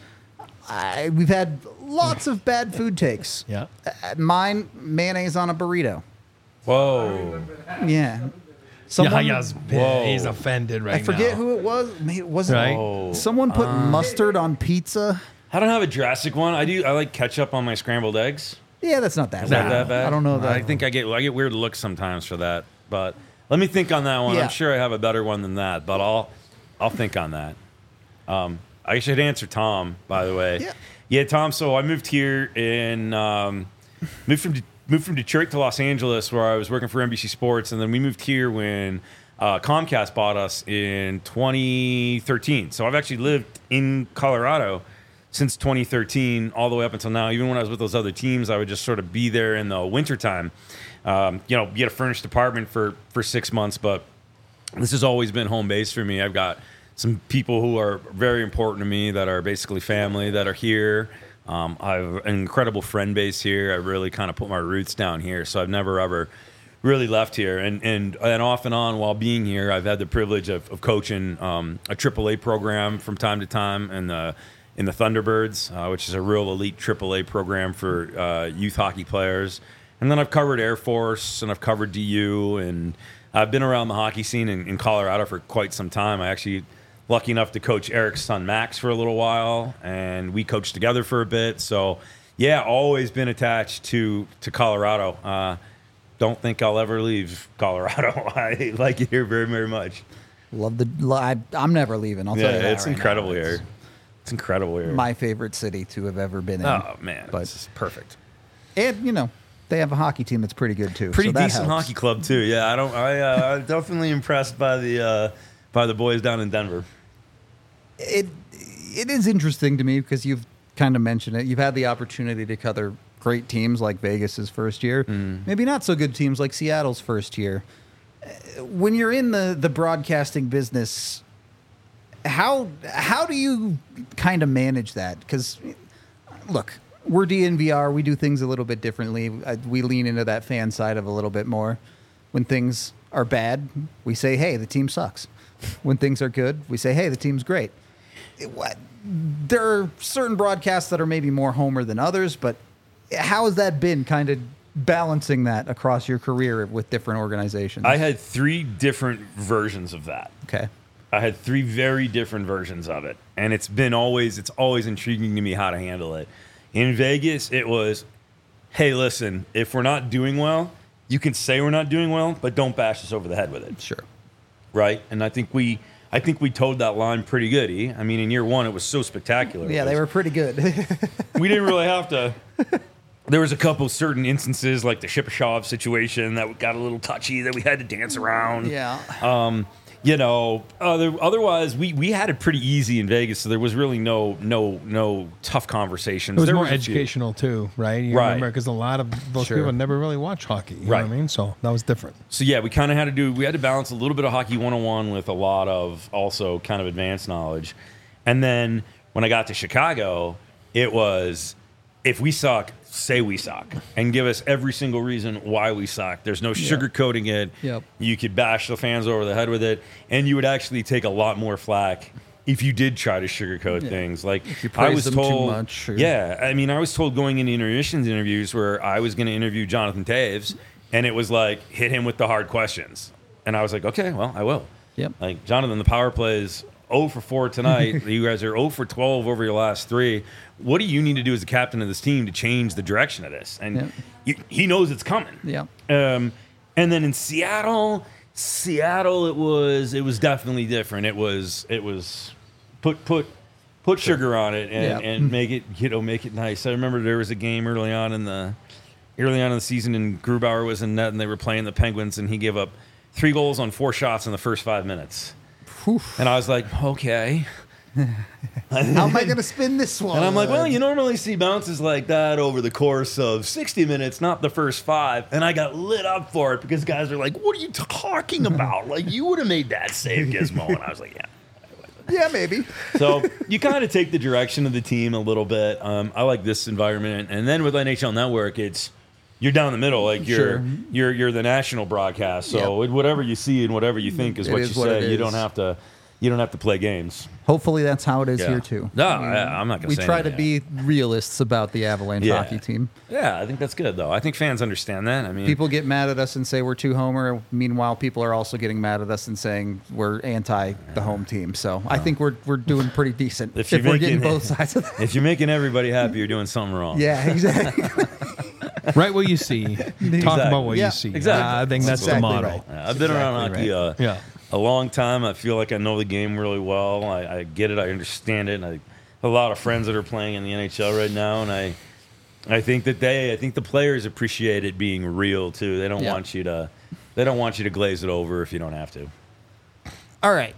A: I, we've had lots of bad food takes.
B: Yeah.
A: Uh, mine, mayonnaise on a burrito.
C: Whoa.
A: Yeah. Someone,
B: Yahaya's
C: Whoa.
B: he's offended right
A: I forget
B: now.
A: who it was. Maybe it wasn't.
B: Right.
C: Whoa.
A: Someone put mustard on pizza.
C: I don't have a drastic one. I do. I like ketchup on my scrambled eggs.
A: Yeah, that's not that
C: Is
A: bad.
C: that that bad?
A: I don't know that.
C: I think I get I get weird looks sometimes for that. But let me think on that one.
A: Yeah.
C: I'm sure I have a better one than that. But I'll I'll think on that. Um, I should answer Tom, by the way.
A: Yeah.
C: Yeah, Tom. So I moved here in um, moved from De- moved from Detroit to Los Angeles, where I was working for N B C Sports, and then we moved here when uh, Comcast bought us in twenty thirteen. So I've actually lived in Colorado since twenty thirteen, all the way up until now. Even when I was with those other teams, I would just sort of be there in the wintertime. Um, you know, get a furnished apartment for for six months, but this has always been home base for me. I've got some people who are very important to me that are basically family that are here. Um, I have an incredible friend base here. I really kind of put my roots down here, so I've never ever really left here. And and and off and on while being here, I've had the privilege of, of coaching um, a triple A program from time to time in the in the Thunderbirds, uh, which is a real elite triple A program for uh, youth hockey players. And then I've covered Air Force and I've covered D U, and I've been around the hockey scene in, in Colorado for quite some time. I actually lucky enough to coach Eric's son Max for a little while, and we coached together for a bit. So, yeah, always been attached to to Colorado. Uh, don't think I'll ever leave Colorado. I like it here very, very much.
A: Love the. lo- I, I'm never leaving. I'll tell you
C: Yeah,
A: that
C: it's
A: right
C: incredible
A: now.
C: here. It's incredible here.
A: My favorite city to have ever been in.
C: oh man,
A: But-
C: this is perfect.
A: And you know, They have a hockey team that's pretty good too.
C: Pretty
A: so that
C: decent
A: helps.
C: hockey club too. Yeah, I don't. I uh, I'm definitely impressed by the uh, by the boys down in Denver.
A: It it is interesting to me because you've kind of mentioned it. You've had the opportunity to cover great teams like Vegas's first year,
C: Mm.
A: maybe not so good teams like Seattle's first year. Uh, When you're in the the broadcasting business, how how do you kind of manage that? Because look, we're D N V R. We do things a little bit differently. I, we lean into that fan side of a little bit more. When things are bad, we say, "Hey, the team sucks." When things are good, we say, "Hey, the team's great." It- what- there are certain broadcasts that are maybe more homer than others, but how has that been, kind of balancing that across your career with different organizations?
C: I had three different versions of that.
A: okay.
C: I had three very different versions of it, and it's been always it's always intriguing to me how to handle it. In Vegas, it was, hey, listen, if we're not doing well, you can say we're not doing well, but don't bash us over the head with it,
A: Sure.
C: right? And I think we I think we towed that line pretty good. E. I mean, in year one, it was so spectacular.
A: Yeah,
C: It
A: they
C: was-
A: were pretty good.
C: we didn't really have to. There was a couple certain instances, like the Shipashov situation, that got a little touchy, that we had to dance around.
A: yeah.
C: Um, you know, other, otherwise we, we had it pretty easy in Vegas, so there was really no no no tough conversations.
B: It was
C: there
B: more
C: was a few.
B: educational too, right? You
C: Right.
B: remember, because a lot of those
A: Sure.
B: people never really watch hockey. You
C: Right.
B: know what I mean? So that was different.
C: So yeah, we kind of had to do. We had to balance a little bit of hockey one oh one with a lot of also kind of advanced knowledge. And then when I got to Chicago, it was, if we suck, say we suck, and give us every single reason why we suck. There's no sugarcoating it.
A: Yep.
C: You could bash the fans over the head with it, and you would actually take a lot more flack if you did try to sugarcoat things. Like
A: you
C: I
A: praise
C: was
A: them too
C: told,
A: much, or-
C: yeah. I mean, I was told going into intermissions interviews where I was going to interview Jonathan Taves, and it was like, hit him with the hard questions, and I was like, okay, well, I will.
A: Yep.
C: Like, Jonathan, the power play is oh for four tonight. You guys are oh for twelve over your last three. What do you need to do as the captain of this team to change the direction of this? And
A: Yep.
C: you, he knows it's coming.
A: Yeah.
C: Um, and then in Seattle, Seattle, it was it was definitely different. It was it was put put put sugar on it and,
A: Yeah.
C: and make it you know make it nice. I remember there was a game early on in the early on in the season, and Grubauer was in net, and they were playing the Penguins, and he gave up three goals on four shots in the first five minutes. And I was like, okay.
A: How am I going to spin this one?
C: And I'm like, well, you normally see bounces like that over the course of sixty minutes, not the first five. And I got lit up for it because guys are like, what are you talking about? Like, you would have made that save, Gizmo. And I was like, yeah.
A: Yeah, maybe.
C: So you kind of take the direction of the team a little bit. Um, I like this environment. And then with N H L Network, it's you're down the middle. Like you're
A: Sure.
C: you're you're the national broadcast. So whatever you see and whatever you think is
A: It
C: what
A: is
C: you
A: what
C: say.
A: it
C: You
A: is.
C: don't have to you don't have to play games.
A: Hopefully that's how it is
C: Yeah.
A: here too.
C: No, I, I'm not going
A: We
C: say
A: try to
C: anything.
A: be realists about the Avalanche
C: Yeah.
A: hockey team.
C: Yeah, I think that's good though. I think fans understand that. I mean,
A: People get mad at us and say we're too homer. Meanwhile, people are also getting mad at us and saying we're anti the home team. So I think we're we're doing pretty decent
C: If
A: if,
C: you're
A: we're getting
C: making-
A: both sides of that.
C: if you're making everybody happy, you're doing something wrong.
A: Yeah, exactly.
B: Right what you see. Talk about what
A: Yeah,
B: you see.
C: exactly.
B: Uh, I think that's
A: Exactly
B: the motto.
A: right.
C: Yeah, I've been around
A: Exactly
C: hockey uh,
B: Yeah.
C: a long time. I feel like I know the game really well. I, I get it. I understand it. And I have a lot of friends that are playing in the N H L right now, and I, I think that they, I think the players appreciate it being real too. They don't
A: Yeah.
C: want you to, they don't want you to glaze it over if you don't have to.
A: All right.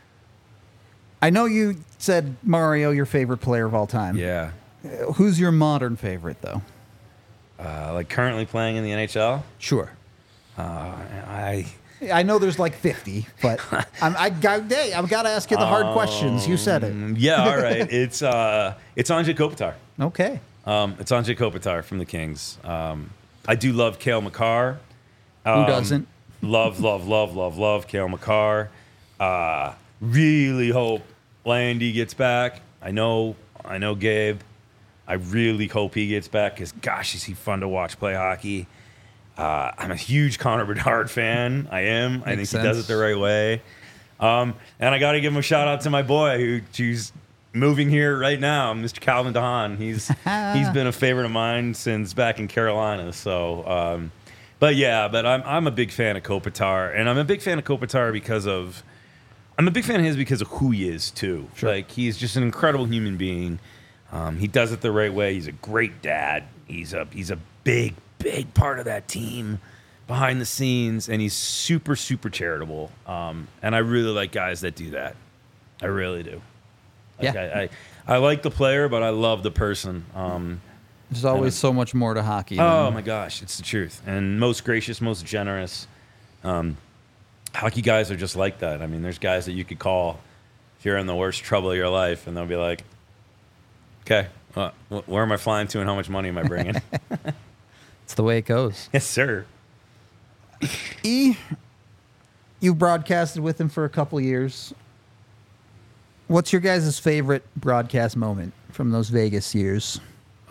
A: I know you said Mario your favorite player of all time.
C: Yeah,
A: Uh, Who's your modern favorite though?
C: uh, like currently playing in the N H L.
A: Sure.
C: Uh, I.
A: I know there's like fifty, but I'm, I got hey, I've got to ask you the hard questions. You said it.
C: Um, Yeah, all right. It's uh, it's Andrei Kopitar.
A: Okay.
C: Um, it's Andrei Kopitar from the Kings. Um, I do love Cale Makar.
A: Who
C: Um,
A: doesn't?
C: Love, love, love, love, love Cale Makar. Uh, really hope Landy gets back. I know, I know Gabe. I really hope he gets back because, gosh, is he fun to watch play hockey. Uh, I'm a huge Connor Bedard fan. I am. I think
A: Makes
C: he does
A: sense.
C: it the right way. Um, and I got to give him a shout out to my boy who who's moving here right now, Mister Calvin DeHaan. He's he's been a favorite of mine since back in Carolina. So, um, but yeah, but I'm I'm a big fan of Kopitar, and I'm a big fan of Kopitar because of I'm a big fan of his because of who he is too. Like he's just an incredible human being. Um, he does it the right way. He's a great dad. He's a he's a big big part of that team behind the scenes, and he's super, super charitable. Um, and I really like guys that do that. I really do. Like,
A: Yeah.
C: I, I, I like the player, but I love the person. Um,
E: There's always so much more to hockey.
C: oh,
E: than-
C: my gosh. It's the truth. And most gracious, most generous. Um, hockey guys are just like that. I mean, there's guys that you could call if you're in the worst trouble of your life, and they'll be like, okay, uh, wh- where am I flying to and how much money am I bringing?
E: It's the way it goes.
C: Yes, sir.
A: E, you broadcasted with him for a couple years. What's your guys' favorite broadcast moment from those Vegas years?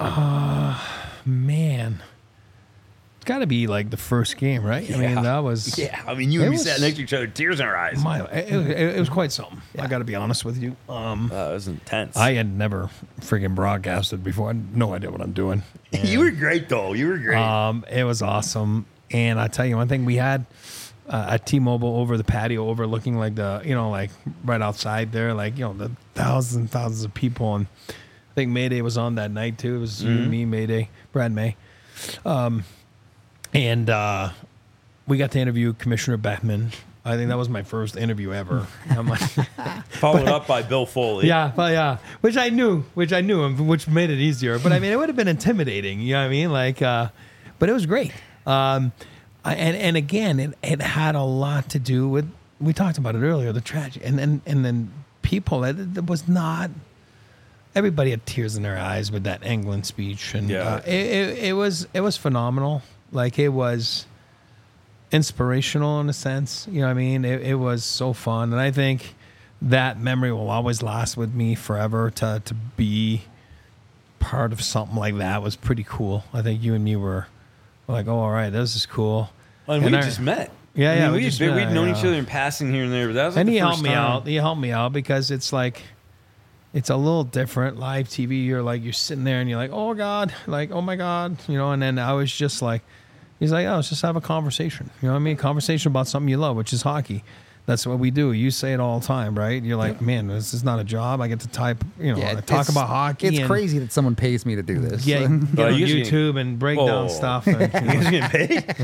B: Man, it's got to be like the first game, right? I mean,
C: Yeah.
B: that was
C: Yeah, I mean, you
B: It
C: and me
B: was-
C: sat next to each other, tears in our eyes.
B: my. It, it, it was quite something. I got to be honest with you. Um,
C: Uh, it was intense.
B: I had never freaking broadcasted before. I had no idea what I'm doing.
C: you were great, though. You were great.
B: Um, it was awesome. And I tell you one thing, we had uh, a T-Mobile over the patio, overlooking like the, you know, like right outside there, like, you know, the thousands and thousands of people. And I think Mayday was on that night too. It was you, me, Mayday, Brad May. Um, and uh, we got to interview Commissioner Bettman. I think that was my first interview ever. I'm like,
C: Followed up by Bill Foley.
B: yeah, but yeah, which I knew, which I knew, and which made it easier. But I mean, it would have been intimidating. You know what I mean? Like, uh, but it was great. Um, I- and and again, it, it had a lot to do with, we talked about it earlier, the tragedy, and then and then people. It, it was not. Everybody had tears in their eyes with that England speech, and
C: Yeah.
B: uh, it, it it was it was phenomenal. Like, it was inspirational in a sense. You know what I mean? It, it was so fun. And I think that memory will always last with me forever. To, to be part of something like that was pretty cool. I think you and me were, were like, oh, all right, this is cool.
C: And,
B: And
C: we
B: I-
C: just met.
B: Yeah,
C: I
B: yeah,
C: mean,
B: we
C: we
B: just
C: we'd
B: met,
C: known
B: yeah.
C: each other in passing here and there, but that was like
B: And
C: the
B: he
C: first
B: helped me
C: time.
B: out. He helped me out because it's like, it's a little different. Live T V, you're like, you're sitting there and you're like, oh God, like, oh my God, you know. And then I was just like, he's like, oh, let's just have a conversation. You know what I mean? Conversation about something you love, which is hockey. That's what we do. You say it all the time, right? You're like, man, this is not a job. I get to type, you know,
E: Yeah,
B: talk
E: it's-
B: about hockey.
E: It's
B: and,
E: crazy that someone pays me to do this.
B: Yeah, get
C: Oh,
B: on
C: you guys
B: YouTube
C: getting-
B: and break
C: Whoa.
B: down stuff. And, you know.
C: You guys getting paid?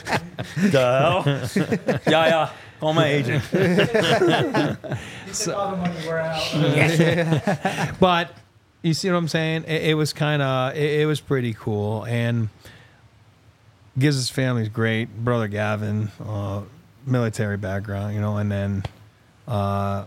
C: the hell? Yeah, yeah. Call my agent.
D: You took all the money we're out.
B: But you see what I'm saying? It, it was kind of, it, it was pretty cool. And Giz's family's great. Brother Gavin, uh, military background, you know, and then uh,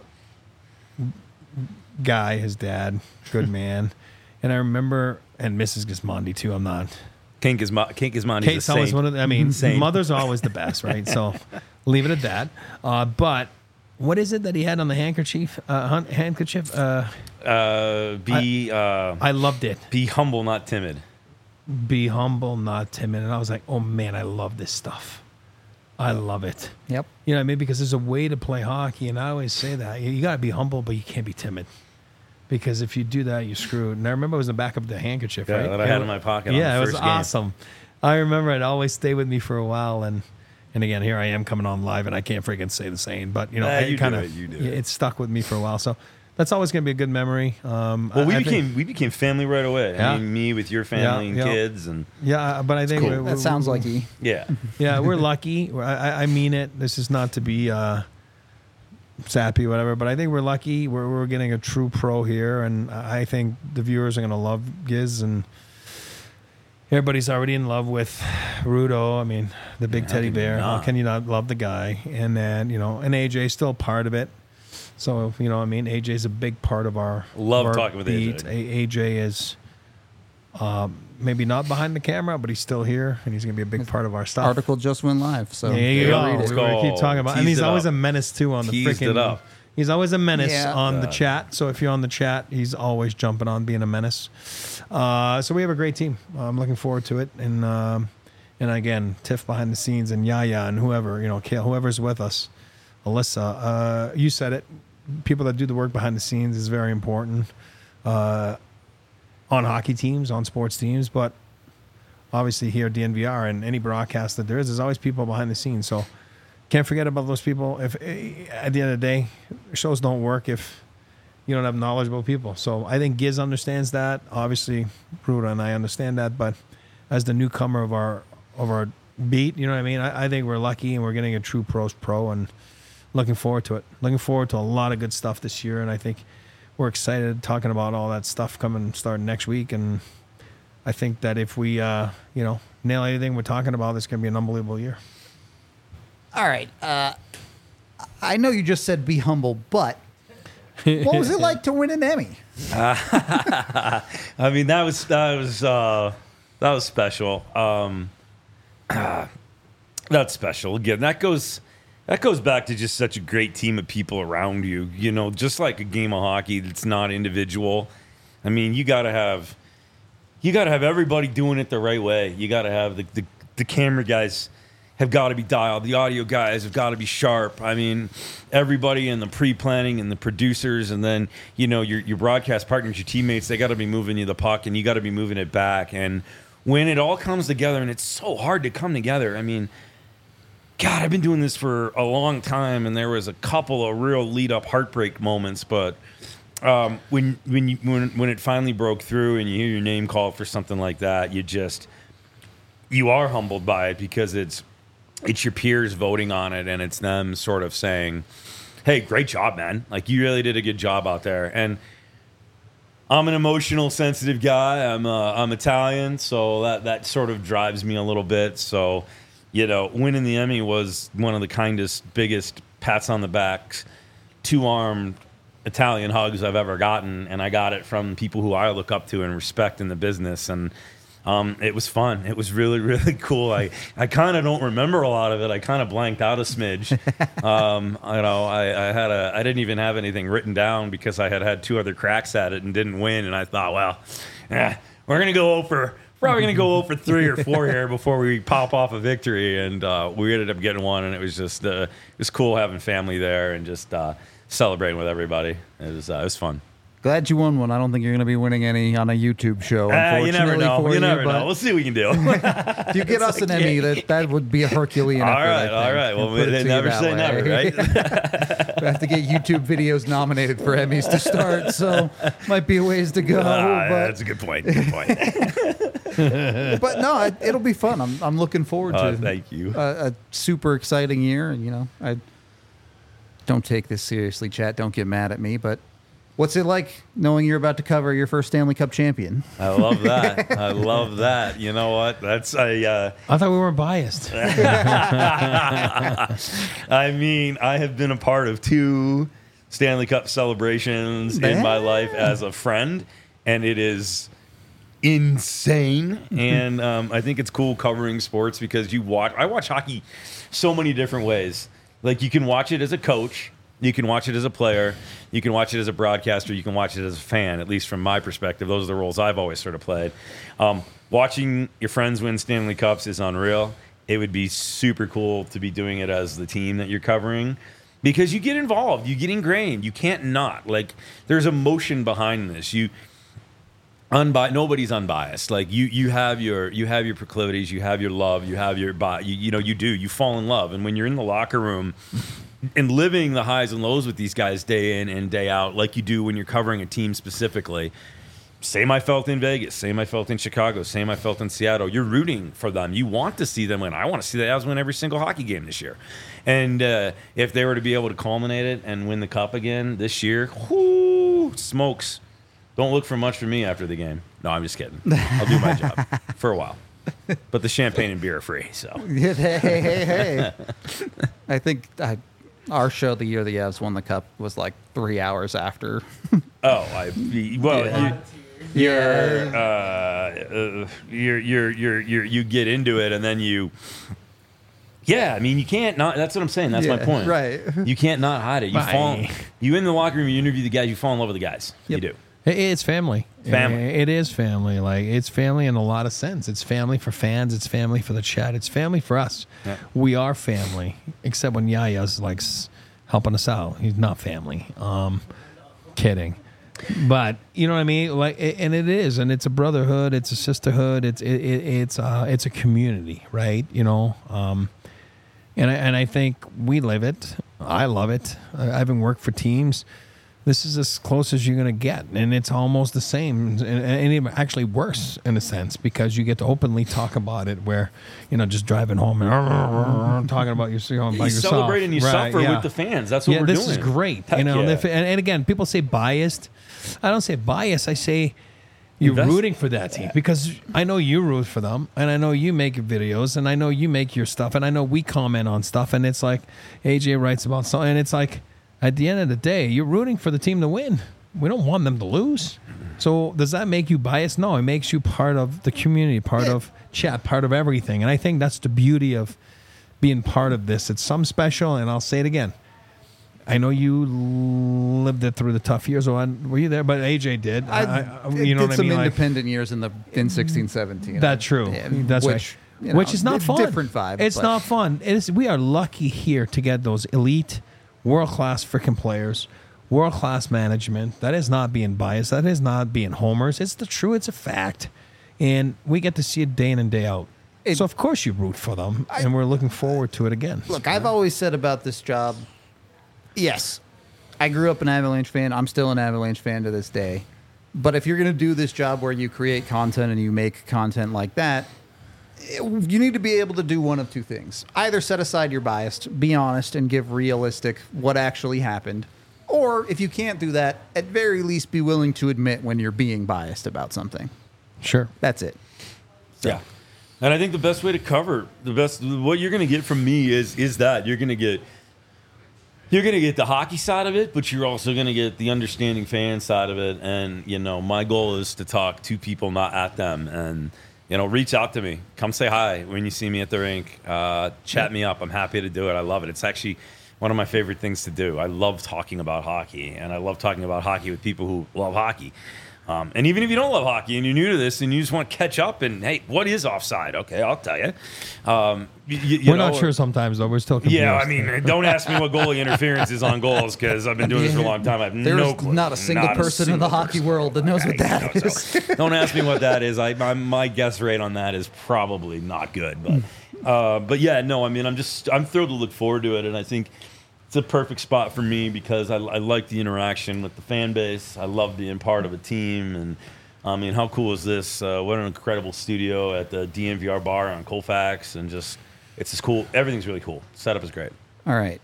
B: Guy, his dad, good man. And I remember, and Missus Gismondi too. I'm not.
C: Kink is Mo- Kink is Monty's
B: Kate's
C: a
B: always
C: saint.
B: one of the, I mean,
C: Saint.
B: mothers are always the best, right? So leave it at that. Uh, but what is it that he had on the handkerchief? Uh, hun- handkerchief? Uh,
C: Uh, be uh,
B: I loved it.
C: be humble, not timid.
B: Be humble, not timid. And I was like, oh man, I love this stuff. I love it.
E: Yep.
B: You know what I mean? Because there's a way to play hockey, and I always say that. You, you got to be humble, but you can't be timid. Because if you do that, you're screwed. And I remember it was in the back of the handkerchief,
C: Yeah,
B: right?
C: that I had in my pocket on
B: Yeah,
C: the
B: it was
C: first game.
B: awesome. I remember it always stayed with me for a while, and and again, here I am coming on live, and I can't freaking say the same. But you know,
C: Nah,
B: it
C: you do
B: kind
C: it,
B: of
C: you do
B: yeah,
C: it.
B: it stuck with me for a while. So that's always going to be a good memory. Um,
C: Well, we
B: I- I
C: became
B: think-
C: we became family right away.
B: Yeah.
C: I mean, me with your family
B: Yeah,
C: and
B: yeah.
C: kids, and
B: yeah, but I think
C: cool.
B: we- we-
E: That sounds like E.
C: yeah,
B: Yeah, we're lucky. I, I- I mean it. This is not to be uh, sappy, or whatever, but I think we're lucky. We're, we're getting a true pro here, and I think the viewers are going to love Giz, and everybody's already in love with Rudo. I mean, the big
C: How
B: teddy
C: can you
B: bear. How
C: not?
B: can you not love the guy? And then, you know, and A J's still part of it. So, you know, I mean, A J's a big part of our
C: Love
B: of our
C: talking with A J.
B: beat. A- AJ is um, maybe not behind the camera, but he's still here, and he's going to be a big part of our stuff.
E: Article just went live. So
B: There you
C: Yeah,
B: go.
C: read it.
B: We were- keep talking about, and
C: Teased
B: he's
C: it
B: always
C: up.
B: a menace too on the
C: Teased
B: freaking.
C: it up.
B: He's always a menace
E: Yeah.
B: on the
C: God.
B: chat. So if you're on the chat, he's always jumping on being a menace. Uh, so we have a great team. I'm looking forward to it, and um, and again, Tiff behind the scenes, and Yaya, and whoever you know, Kale, whoever's with us, Alyssa. Uh, you said it. People that do the work behind the scenes is very important uh, on hockey teams, on sports teams, but obviously here at D N V R and any broadcast that there is, there's always people behind the scenes. So can't forget about those people. If eh, at the end of the day, shows don't work if you don't have knowledgeable people. So I think Giz understands that. Obviously, Ruda and I understand that, but as the newcomer of our of our beat. You know what I mean? I, I think we're lucky, and we're getting a true pros pro, and looking forward to it. Looking forward to a lot of good stuff this year, and I think we're excited talking about all that stuff coming starting next week. And I think that if we, uh, you know, nail anything we're talking about, it's going to be an unbelievable year.
A: All right. Uh, I know you just said be humble, but what was it like to win an Emmy?
C: I mean, that was that was uh, that was special. Um, that's special. Again, that goes that goes back to just such a great team of people around you. You know, just like a game of hockey that's not individual. I mean, you got to have you got to have everybody doing it the right way. You got to have the, the the camera guys have got to be dialed. The audio guys have got to be sharp. I mean, everybody in the pre-planning and the producers, and then, you know, your your broadcast partners, your teammates, they got to be moving you the puck, and you got to be moving it back. And when it all comes together, and it's so hard to come together, I mean, God, I've been doing this for a long time, and there was a couple of real lead-up heartbreak moments, but um, when when you when when it finally broke through and you hear your name called for something like that, you just you are humbled by it, because it's it's your peers voting on it, and it's them sort of saying, hey, great job, man. Like, you really did a good job out there. And I'm an emotional, sensitive guy. I'm uh, I'm Italian, so that, that sort of drives me a little bit. So, you know, winning the Emmy was one of the kindest, biggest pats on the back, two-armed Italian hugs I've ever gotten, and I got it from people who I look up to and respect in the business. And Um, it was fun. It was really, really cool. I, I kind of don't remember a lot of it. I kind of blanked out a smidge. Um, you know, I, I had a, I didn't even have anything written down because I had had two other cracks at it and didn't win. And I thought, well, eh, we're gonna go over, probably gonna go over three or four here before we pop off a victory. And uh, we ended up getting one, and it was just, uh, it was cool having family there and just uh, celebrating with everybody. It was, uh, it was fun.
E: Glad you won one. I don't think you're going to be winning any on a YouTube show.
C: Uh, you never know.
E: For
C: You never
E: but
C: know. We'll see what we can do.
E: If you get us an Emmy, that, that would be a Herculean
C: All
E: effort. I
C: right,
E: think.
C: all right. Well,
E: I'll put it
C: they
E: to you
C: never
E: that
C: say
E: way.
C: never, right?
E: We have to get YouTube videos nominated for Emmys to start, so might be a ways to go.
C: Ah,
E: but,
C: that's a good point. Good point.
A: But no, it, it'll be fun. I'm I'm looking forward
C: Uh,
A: to
C: thank you.
E: a, a super exciting year. You know, I don't take this seriously, chat. Don't get mad at me, but
A: What's it like knowing you're about to cover your first Stanley Cup champion?
C: I love that. I love that. You know what? That's a. Uh,
B: I thought we weren't biased.
C: I mean, I have been a part of two Stanley Cup celebrations in my life as a friend, and it is insane. And um, I think it's cool covering sports because you watch. I watch hockey so many different ways. Like, you can watch it as a coach. You can watch it as a player. You can watch it as a broadcaster. You can watch it as a fan, at least from my perspective. Those are the roles I've always sort of played. Um, watching your friends win Stanley Cups is unreal. It would be super cool to be doing it as the team that you're covering because you get involved. You get ingrained. You can't not. Like, there's emotion behind this. You unbi- Nobody's unbiased. Like, you you have your you have your proclivities. You have your love. You have your bi- you, you know, you do. You fall in love. And when you're in the locker room and living the highs and lows with these guys day in and day out, like you do when you're covering a team specifically. Same I felt in Vegas. Same I felt in Chicago. Same I felt in Seattle. You're rooting for them. You want to see them win. I want to see the Avs win every single hockey game this year. And uh, if they were to be able to culminate it and win the cup again this year, whoo, smokes. Don't look for much from me after the game. No, I'm just kidding. I'll do my job for a while. But the champagne and beer are free, so.
E: hey, hey, hey, hey. I think I, our show the year the Avs won the cup was like three hours after.
C: Oh, I well,
E: Yeah.
C: you, you're, uh, uh, you're you're you're you're you get into it, and then you. Yeah, I mean, you can't not. That's what I'm saying. That's my
A: Yeah,
C: point.
A: right.
C: You can't not hide it. You
B: Bye.
C: fall. You in the locker room. You interview the guys. You fall in love with the guys.
A: Yep.
C: You do.
B: It- It's family.
C: Family.
B: It is family. Like, it's family in a lot of sense. It's family for fans. It's family for the chat. It's family for us.
C: Yeah.
B: We are family, except when Yaya's like s- helping us out. He's not family. Um, kidding. But you know what I mean? Like, a- and it is, and it's a brotherhood. It's a sisterhood. It's it, it, it's uh, it's a community, right? You know. Um, and I, and I think we live it. I love it. I, I've been worked for teams this is as close as you're going to get. And it's almost the same, and, and even actually worse in a sense, because you get to openly talk about it where, you know, just driving home and talking about your, you know, about
C: You're
B: yourself.
C: celebrating you
B: Right,
C: suffer
B: yeah.
C: with the fans. That's what
B: yeah,
C: we're
B: this
C: doing.
B: is great.
C: Heck
B: you know,
C: yeah.
B: and, if, and, and again, people say biased. I don't say biased. I say you're
C: Invest-
B: rooting for that team because I know you root for them, and I know you make videos, and I know you make your stuff, and I know we comment on stuff, and it's like A J writes about something, and it's like at the end of the day, you're rooting for the team to win. We don't want them to lose. So does that make you biased? No, it makes you part of the community, part of chat, part of everything, and I think that's the beauty of being part of this. It's some special, and I'll say it again. I know you lived it through the tough years. Or were you there? But A J did.
E: I,
B: I, I,
E: did
B: you know what I
E: some
B: mean? Like,
E: independent years in the in sixteen, seventeen.
B: that's true.
E: Yeah,
B: That's
E: which,
B: right.
E: you know,
B: Which is not
E: it's
B: fun.
E: Different vibe.
B: It's
E: but-
B: not fun. It is. We are lucky here to get those elite, world class freaking players, world class management. That is not being biased. That is not being homers. It's the truth. It's a fact, and we get to see it day in and day out.
E: It-
B: so of course you root for them, and we're looking forward to it again.
E: Look, I've always said about this job, yes, I grew up an Avalanche fan. I'm still an Avalanche fan to this day. But if you're going to do this job where you create content and you make content like that, it- you need to be able to do one of two things. Either set aside your bias, be honest, and give realistic what actually happened. Or if you can't do that, at very least be willing to admit when you're being biased about something.
B: Sure.
E: That's it.
C: Yeah. And I think the best way to cover the best what you're going to get from me is is that you're going to get you're going to get the hockey side of it, but you're also going to get the understanding fan side of it. And you know, my goal is to talk to people, not at them. And you know, reach out to me, come say hi when you see me at the rink, uh, chat me up. I'm happy to do it. I love it. It's actually one of my favorite things to do. I love talking about hockey, and I love talking about hockey with people who love hockey. Um, and even if you don't love hockey and you're new to this and you just want to catch up and, hey, what is offside? Okay, I'll tell you. Um, you, you
B: We're
C: know,
B: not sure sometimes, though. We're still confused.
C: Yeah, I mean, don't ask me what goalie interference is on goals because I've been doing this for a long time. I have
E: There's
C: no clue.
E: not a single
C: Not a
E: person in
C: single
E: the hockey
C: person.
E: world that knows what that
C: No,
E: is.
C: so don't ask me what that is. I, my, my guess rate on that is probably not good. But, uh, but yeah, no, I mean, I'm just I'm thrilled to look forward to it, and I think it's a perfect spot for me because I, I like the interaction with the fan base. I love being part of a team, and I mean, how cool is this? Uh, what an incredible studio at the D N V R bar on Colfax, and just it's just cool. Everything's really cool. Setup is great.
E: All right.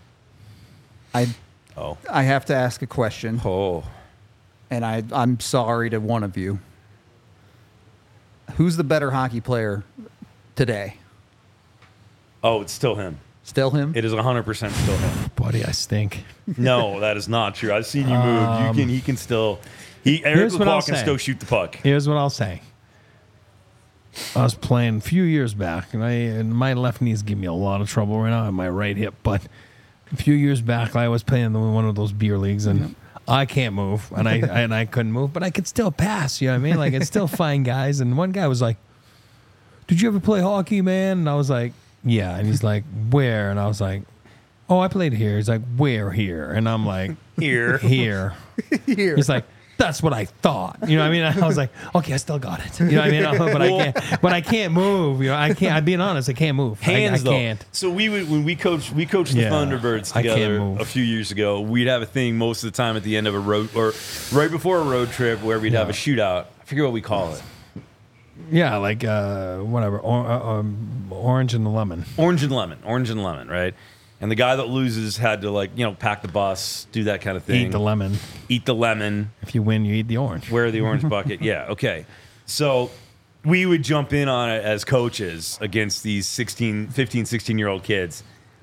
E: I
C: Oh,
E: I have to ask a question,
C: oh,
E: and I, I'm sorry to one of you. Who's the better hockey player today?
C: oh! It's still him.
E: Still him?
C: It is one hundred percent still him.
B: buddy, I stink.
C: No, that is not true. I've seen you move. you can. He can still. He Eric
B: Here's what I'll
C: LeBlanc can
B: say.
C: still shoot the puck.
B: Here's what I'll say. I was playing a few years back, and I and my left knee's giving me a lot of trouble right now, and my right hip. But a few years back, I was playing in one of those beer leagues, and I can't move, and I and I couldn't move, but I could still pass. You know what I mean? Like, it's still fine guys. And one guy was like, "Did you ever play hockey, man?" And I was like, "Yeah." And he's like, "Where?" And I was like, "Oh, I played here." He's like, "Where here?" And I'm like,
C: Here.
B: Here.
E: Here.
B: He's like, "That's what I thought." You know what I mean? I was like, "Okay, I still got it." You know what I mean? But I can't. But I can't move. You know, I can't. I'm being honest. I can't move. I-
C: Hands
B: I,
C: though.
B: can't.
C: So we would when we coached we coached the
B: Yeah,
C: Thunderbirds
B: I can't
C: together
B: move.
C: a few years ago. We'd have a thing most of the time at the end of a road or right before a road trip where we'd have a shootout. I forget what we call it.
B: Yeah, like uh, whatever. Or, uh, um, orange and the lemon.
C: Orange and lemon. Orange and lemon, right? And the guy that loses had to like you know pack the bus, do that kind of thing.
B: Eat the lemon.
C: Eat the lemon.
B: If you win, you eat the orange.
C: Wear the orange bucket. Yeah, okay. So we would jump in on it as coaches against these sixteen, fifteen, sixteen year old kids.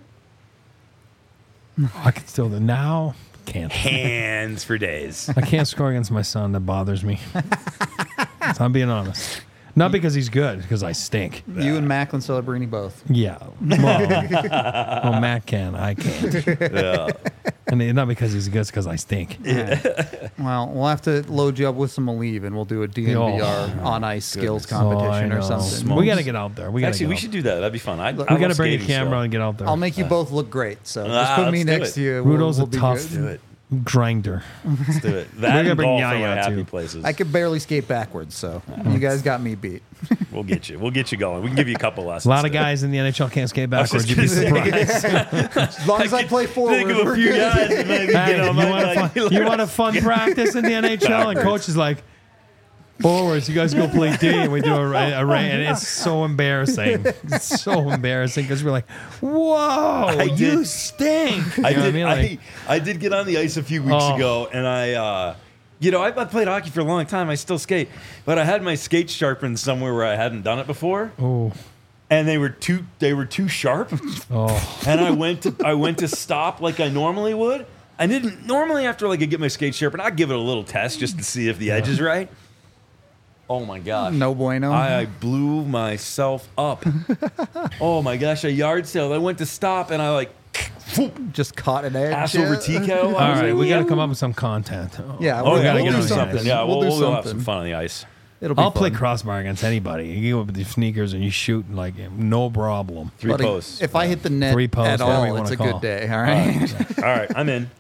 B: I can still do now. Can't.
C: Hands for days.
B: I can't score against my son. That bothers me. So I'm being honest. Not because he's good, because I stink.
E: You and Macklin Celebrini both.
B: Yeah. Well, well, Matt can. I can't.
C: Yeah.
B: And it- not because he's good, it's because I stink.
E: Well, we'll have to load you up with some Aleve, and we'll do a D N V R
B: Oh,
E: on ice skills
C: goodness.
E: competition
B: Oh, I
E: or
B: know.
E: something.
B: We got to get out there. We got to
C: Actually,
B: get
C: we
B: out
C: should do that. That'd be fun. I,
E: Look,
C: I
B: We got to
C: love
B: bring a
C: skating
B: camera
C: still.
B: and get out there.
E: I'll make you both look great. So just
C: Ah,
E: put me
C: let's do
E: next
C: it.
E: to you. We'll-
B: Rudo's
E: we'll
B: a
E: be
B: tough-
E: good.
C: Do it.
B: Grinder.
C: Let's do it.
B: We're
C: That
B: gonna
C: and
B: bring
C: golf are my
B: Yaya,
C: happy
B: too.
C: places.
E: I could barely skate backwards, so you guys got me beat.
C: We'll get you. We'll get you going. We can give you a couple lessons.
B: A lot of
C: too.
B: guys in the N H L can't skate
C: I was
B: backwards.
C: just
B: You'd be
C: gonna say,
B: surprised.
E: As long as I play forward,
C: Think of a
E: we're
C: few
E: good.
C: guys that maybe
B: Hey,
C: get on
B: you,
C: my
B: want a
C: like,
B: fun, you want a fun practice in the N H L? And
C: Backwards.
B: coach is like, forwards, you guys go play D. And we do a, a, a and it's so embarrassing. It's so embarrassing because we're like, whoa, you
C: did-
B: stink. You
C: I
B: know what
C: did.
B: mean?
C: I,
B: Like,
C: I did get on the ice a few weeks
B: Oh.
C: ago, and I, uh, you know, I, I played hockey for a long time. I still skate, but I had my skates sharpened somewhere where I hadn't done it before,
B: oh,
C: and they were too they were too sharp.
B: oh.
C: And I went to I went to stop like I normally would. I didn't normally after like I get my skate sharpened, I'd give it a little test just to see if the edge is right. Oh my gosh.
E: No bueno.
C: I, I blew myself up. Oh my gosh, a yard sale. I went to stop and I like whoop,
E: Just caught an edge.
C: ass over
E: yeah.
C: T K O.
B: All right, we got to come up with some content.
E: Yeah,
C: Oh,
E: we'll,
C: yeah,
B: gotta
E: we'll
B: get
E: do
B: on
E: something.
B: something.
C: Yeah, we'll,
E: we'll do
C: we'll have
E: something.
C: some fun on the ice.
E: It'll be
B: I'll play
E: fun.
B: crossbar against anybody. You go up with your sneakers and you shoot like no problem.
C: Three
E: Buddy,
C: posts.
E: If I hit the net
B: Three posts,
E: at
B: whatever you
E: all, it's
B: wanna
E: a
B: call
E: good
B: it.
E: day. All right.
C: All right, I'm in.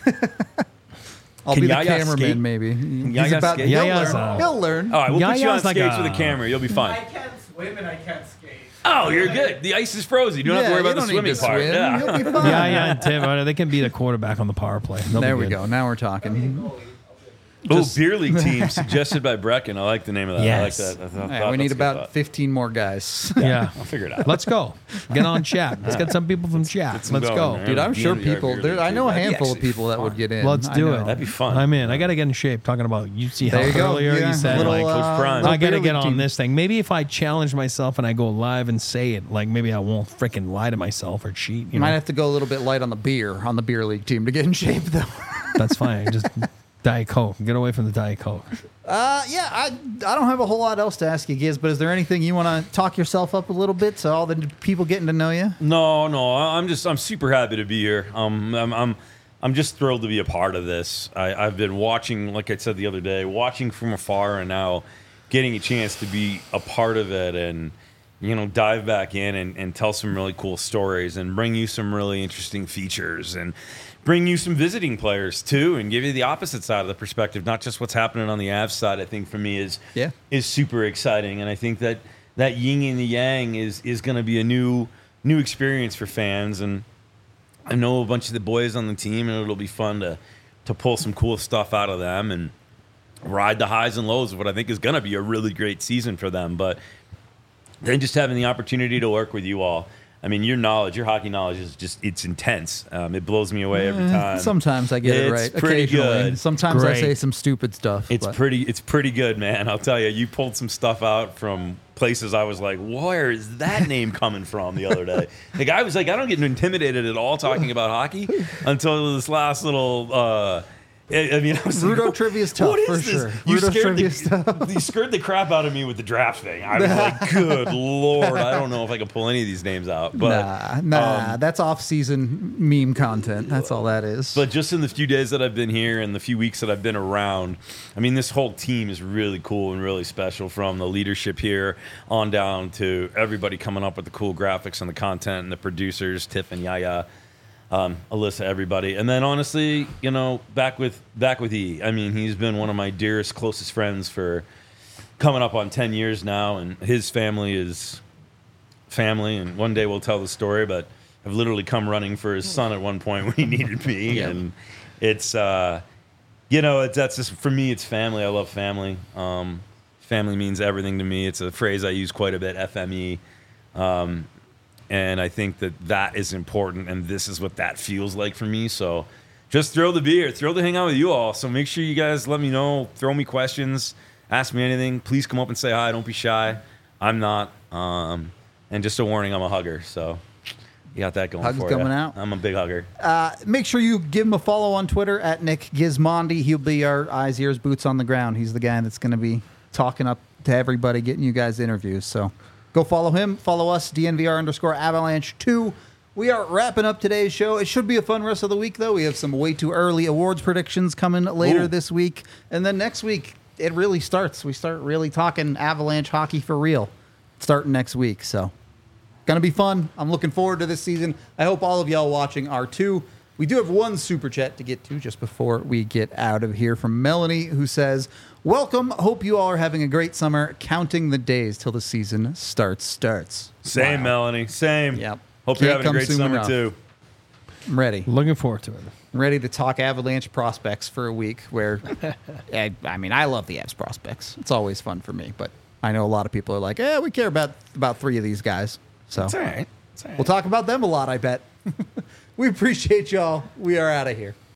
E: I'll
C: Can
E: be the
C: Yaya
E: cameraman,
C: skate?
E: maybe. He's
C: Yaya
E: about.
C: skate?
E: He'll
B: Yaya's,
E: learn.
B: uh,
E: He'll learn.
C: All right, we'll put you on
B: Yaya's like
C: skates
B: a-
C: with a camera. You'll be
D: I
C: fine.
D: can't swim and I can't skate.
C: Oh, you're good. The ice is frozen. You don't have to
E: Yeah,
C: worry
E: you
C: about the
E: don't
C: swimming
E: need to
C: part.
E: swim.
C: Yeah.
E: You'll be fine.
B: Yeah, yeah, and Tim, uh, they can be the quarterback on the power play. They'll be
E: There we
B: good.
E: go. Now we're talking.
C: Oh, beer league team suggested by Brecken. I like the name of that.
B: Yes.
C: I like that. I thought-
E: All right,
C: thought
E: we need
C: that's a good
E: about
C: thought.
E: fifteen more guys.
B: Yeah.
C: I'll figure it out.
B: Let's go. Get on chat. Let's get some people from chat.
C: some
B: Let's
C: going,
B: go.
C: man.
E: Dude, I'm
C: D
E: sure
C: N V R
E: people.
C: beer
E: There,
C: league
E: I know a
C: team. That'd be
E: handful of
C: actually
E: people that would
C: fun.
E: get in.
B: Let's
E: I
B: do
E: know.
B: it.
C: That'd be fun.
B: I'm in. I got to get in shape. Talking about U C
E: There
B: Health
E: you go.
B: earlier.
E: Yeah,
B: You said
E: little,
B: like,
E: uh,
C: prime.
E: little
B: I got to
E: beer
B: get
E: league
B: on
E: team.
B: this thing. Maybe if I challenge myself and I go live and say it, like maybe I won't freaking lie to myself or cheat. You
E: You might
B: know?
E: have to go a little bit light on the beer on the beer league team to get in shape, though.
B: That's fine. Just Diet Coke. Get away from the Diet Coke.
E: Uh, yeah, I I don't have a whole lot else to ask you, Giz, but is there anything you want to talk yourself up a little bit so all the people getting to know you?
C: No, no. I- I'm just. I'm super happy to be here. Um, I'm. I'm. I'm just thrilled to be a part of this. I, I've been watching, like I said the other day, watching from afar, and now getting a chance to be a part of it, and you know, dive back in and, and tell some really cool stories, and bring you some really interesting features, and bring you some visiting players too, and give you the opposite side of the perspective, not just what's happening on the Avs side. I think for me is
E: Yeah.
C: is super exciting, and I think that that yin and the yang is is going to be a new new experience for fans. And I know a bunch of the boys on the team, and it'll be fun to to pull some cool stuff out of them and ride the highs and lows of what I think is going to be a really great season for them. But then just having the opportunity to work with you all. I mean, your knowledge, your hockey knowledge is just, it's intense. Um, it blows me away every time.
E: Sometimes I get it
C: It's
E: right.
C: pretty
E: Occasionally.
C: good.
E: Sometimes I
B: Great.
E: say some stupid stuff.
C: It's
E: but-
C: pretty. It's pretty good, man. I'll tell you. You pulled some stuff out from places I was like, "Where is that name coming from?" The other day, the guy was like, "I don't get intimidated at all talking about hockey until this last little." Uh, I I mean, I was
E: Rudo
C: like,
E: trivia's tough,
C: what is
E: for
C: this?
E: sure.
C: You
E: Rudo
C: scared
E: trivia's
C: the, you scared the crap out of me with the draft thing. I was like, "Good lord, I don't know if I can pull any of these names out." But
E: nah, nah,
C: um,
E: that's off-season meme content. That's all that is.
C: But just in the few days that I've been here and the few weeks that I've been around, I mean, this whole team is really cool and really special, from the leadership here on down to everybody coming up with the cool graphics and the content and the producers, Tiff and Yaya, um, Alyssa, everybody. And then honestly, you know, back with back with E. I mean, he's been one of my dearest, closest friends for coming up on ten years now, and his family is family, and one day we'll tell the story, but I've literally come running for his son at one point when he needed me.
E: Yeah.
C: And it's uh you know, it's that's just, for me, it's family. I love family. Um family means everything to me. It's a phrase I use quite a bit, F M E. Um and I think that that is important, and this is what that feels like for me. So just thrilled to be here, thrilled to hang out with you all. So make sure you guys let me know, throw me questions, ask me anything. Please come up and say hi. Don't be shy. I'm not. Um, and just a warning, I'm a hugger. So you got that going
E: Hugs
C: for
E: coming
C: you.
E: out.
C: I'm a big hugger.
E: Uh, make sure you give him a follow on Twitter at Nick Gizmondi. He'll be our eyes, ears, boots on the ground. He's the guy that's going to be talking up to everybody, getting you guys interviews. So go follow him. Follow us, D N V R underscore Avalanche two. We are wrapping up today's show. It should be a fun rest of the week, though. We have some way too early awards predictions coming later
C: Ooh.
E: this week. And then next week, it really starts. We start really talking Avalanche hockey for real starting next week. So, going to be fun. I'm looking forward to this season. I hope all of y'all watching are too. We do have one super chat to get to just before we get out of here from Melanie, who says, "Welcome. Hope you all are having a great summer. Counting the days till the season starts. Starts.
C: Same,
E: Wow.
C: Melanie. Same.
E: Yep.
C: Hope
E: Can't
C: you're having a
E: come
C: great
E: soon
C: summer
E: enough.
C: too.
E: I'm ready.
B: Looking forward to it.
E: I'm ready to talk Avalanche prospects for a week. Where, I, I mean, I love the Avs prospects. It's always fun for me. But I know a lot of people are like, "Eh, we care about about three of these guys." So
C: It's all right. It's all right.
E: we'll talk about them a lot. I bet. We appreciate y'all. We are out of here.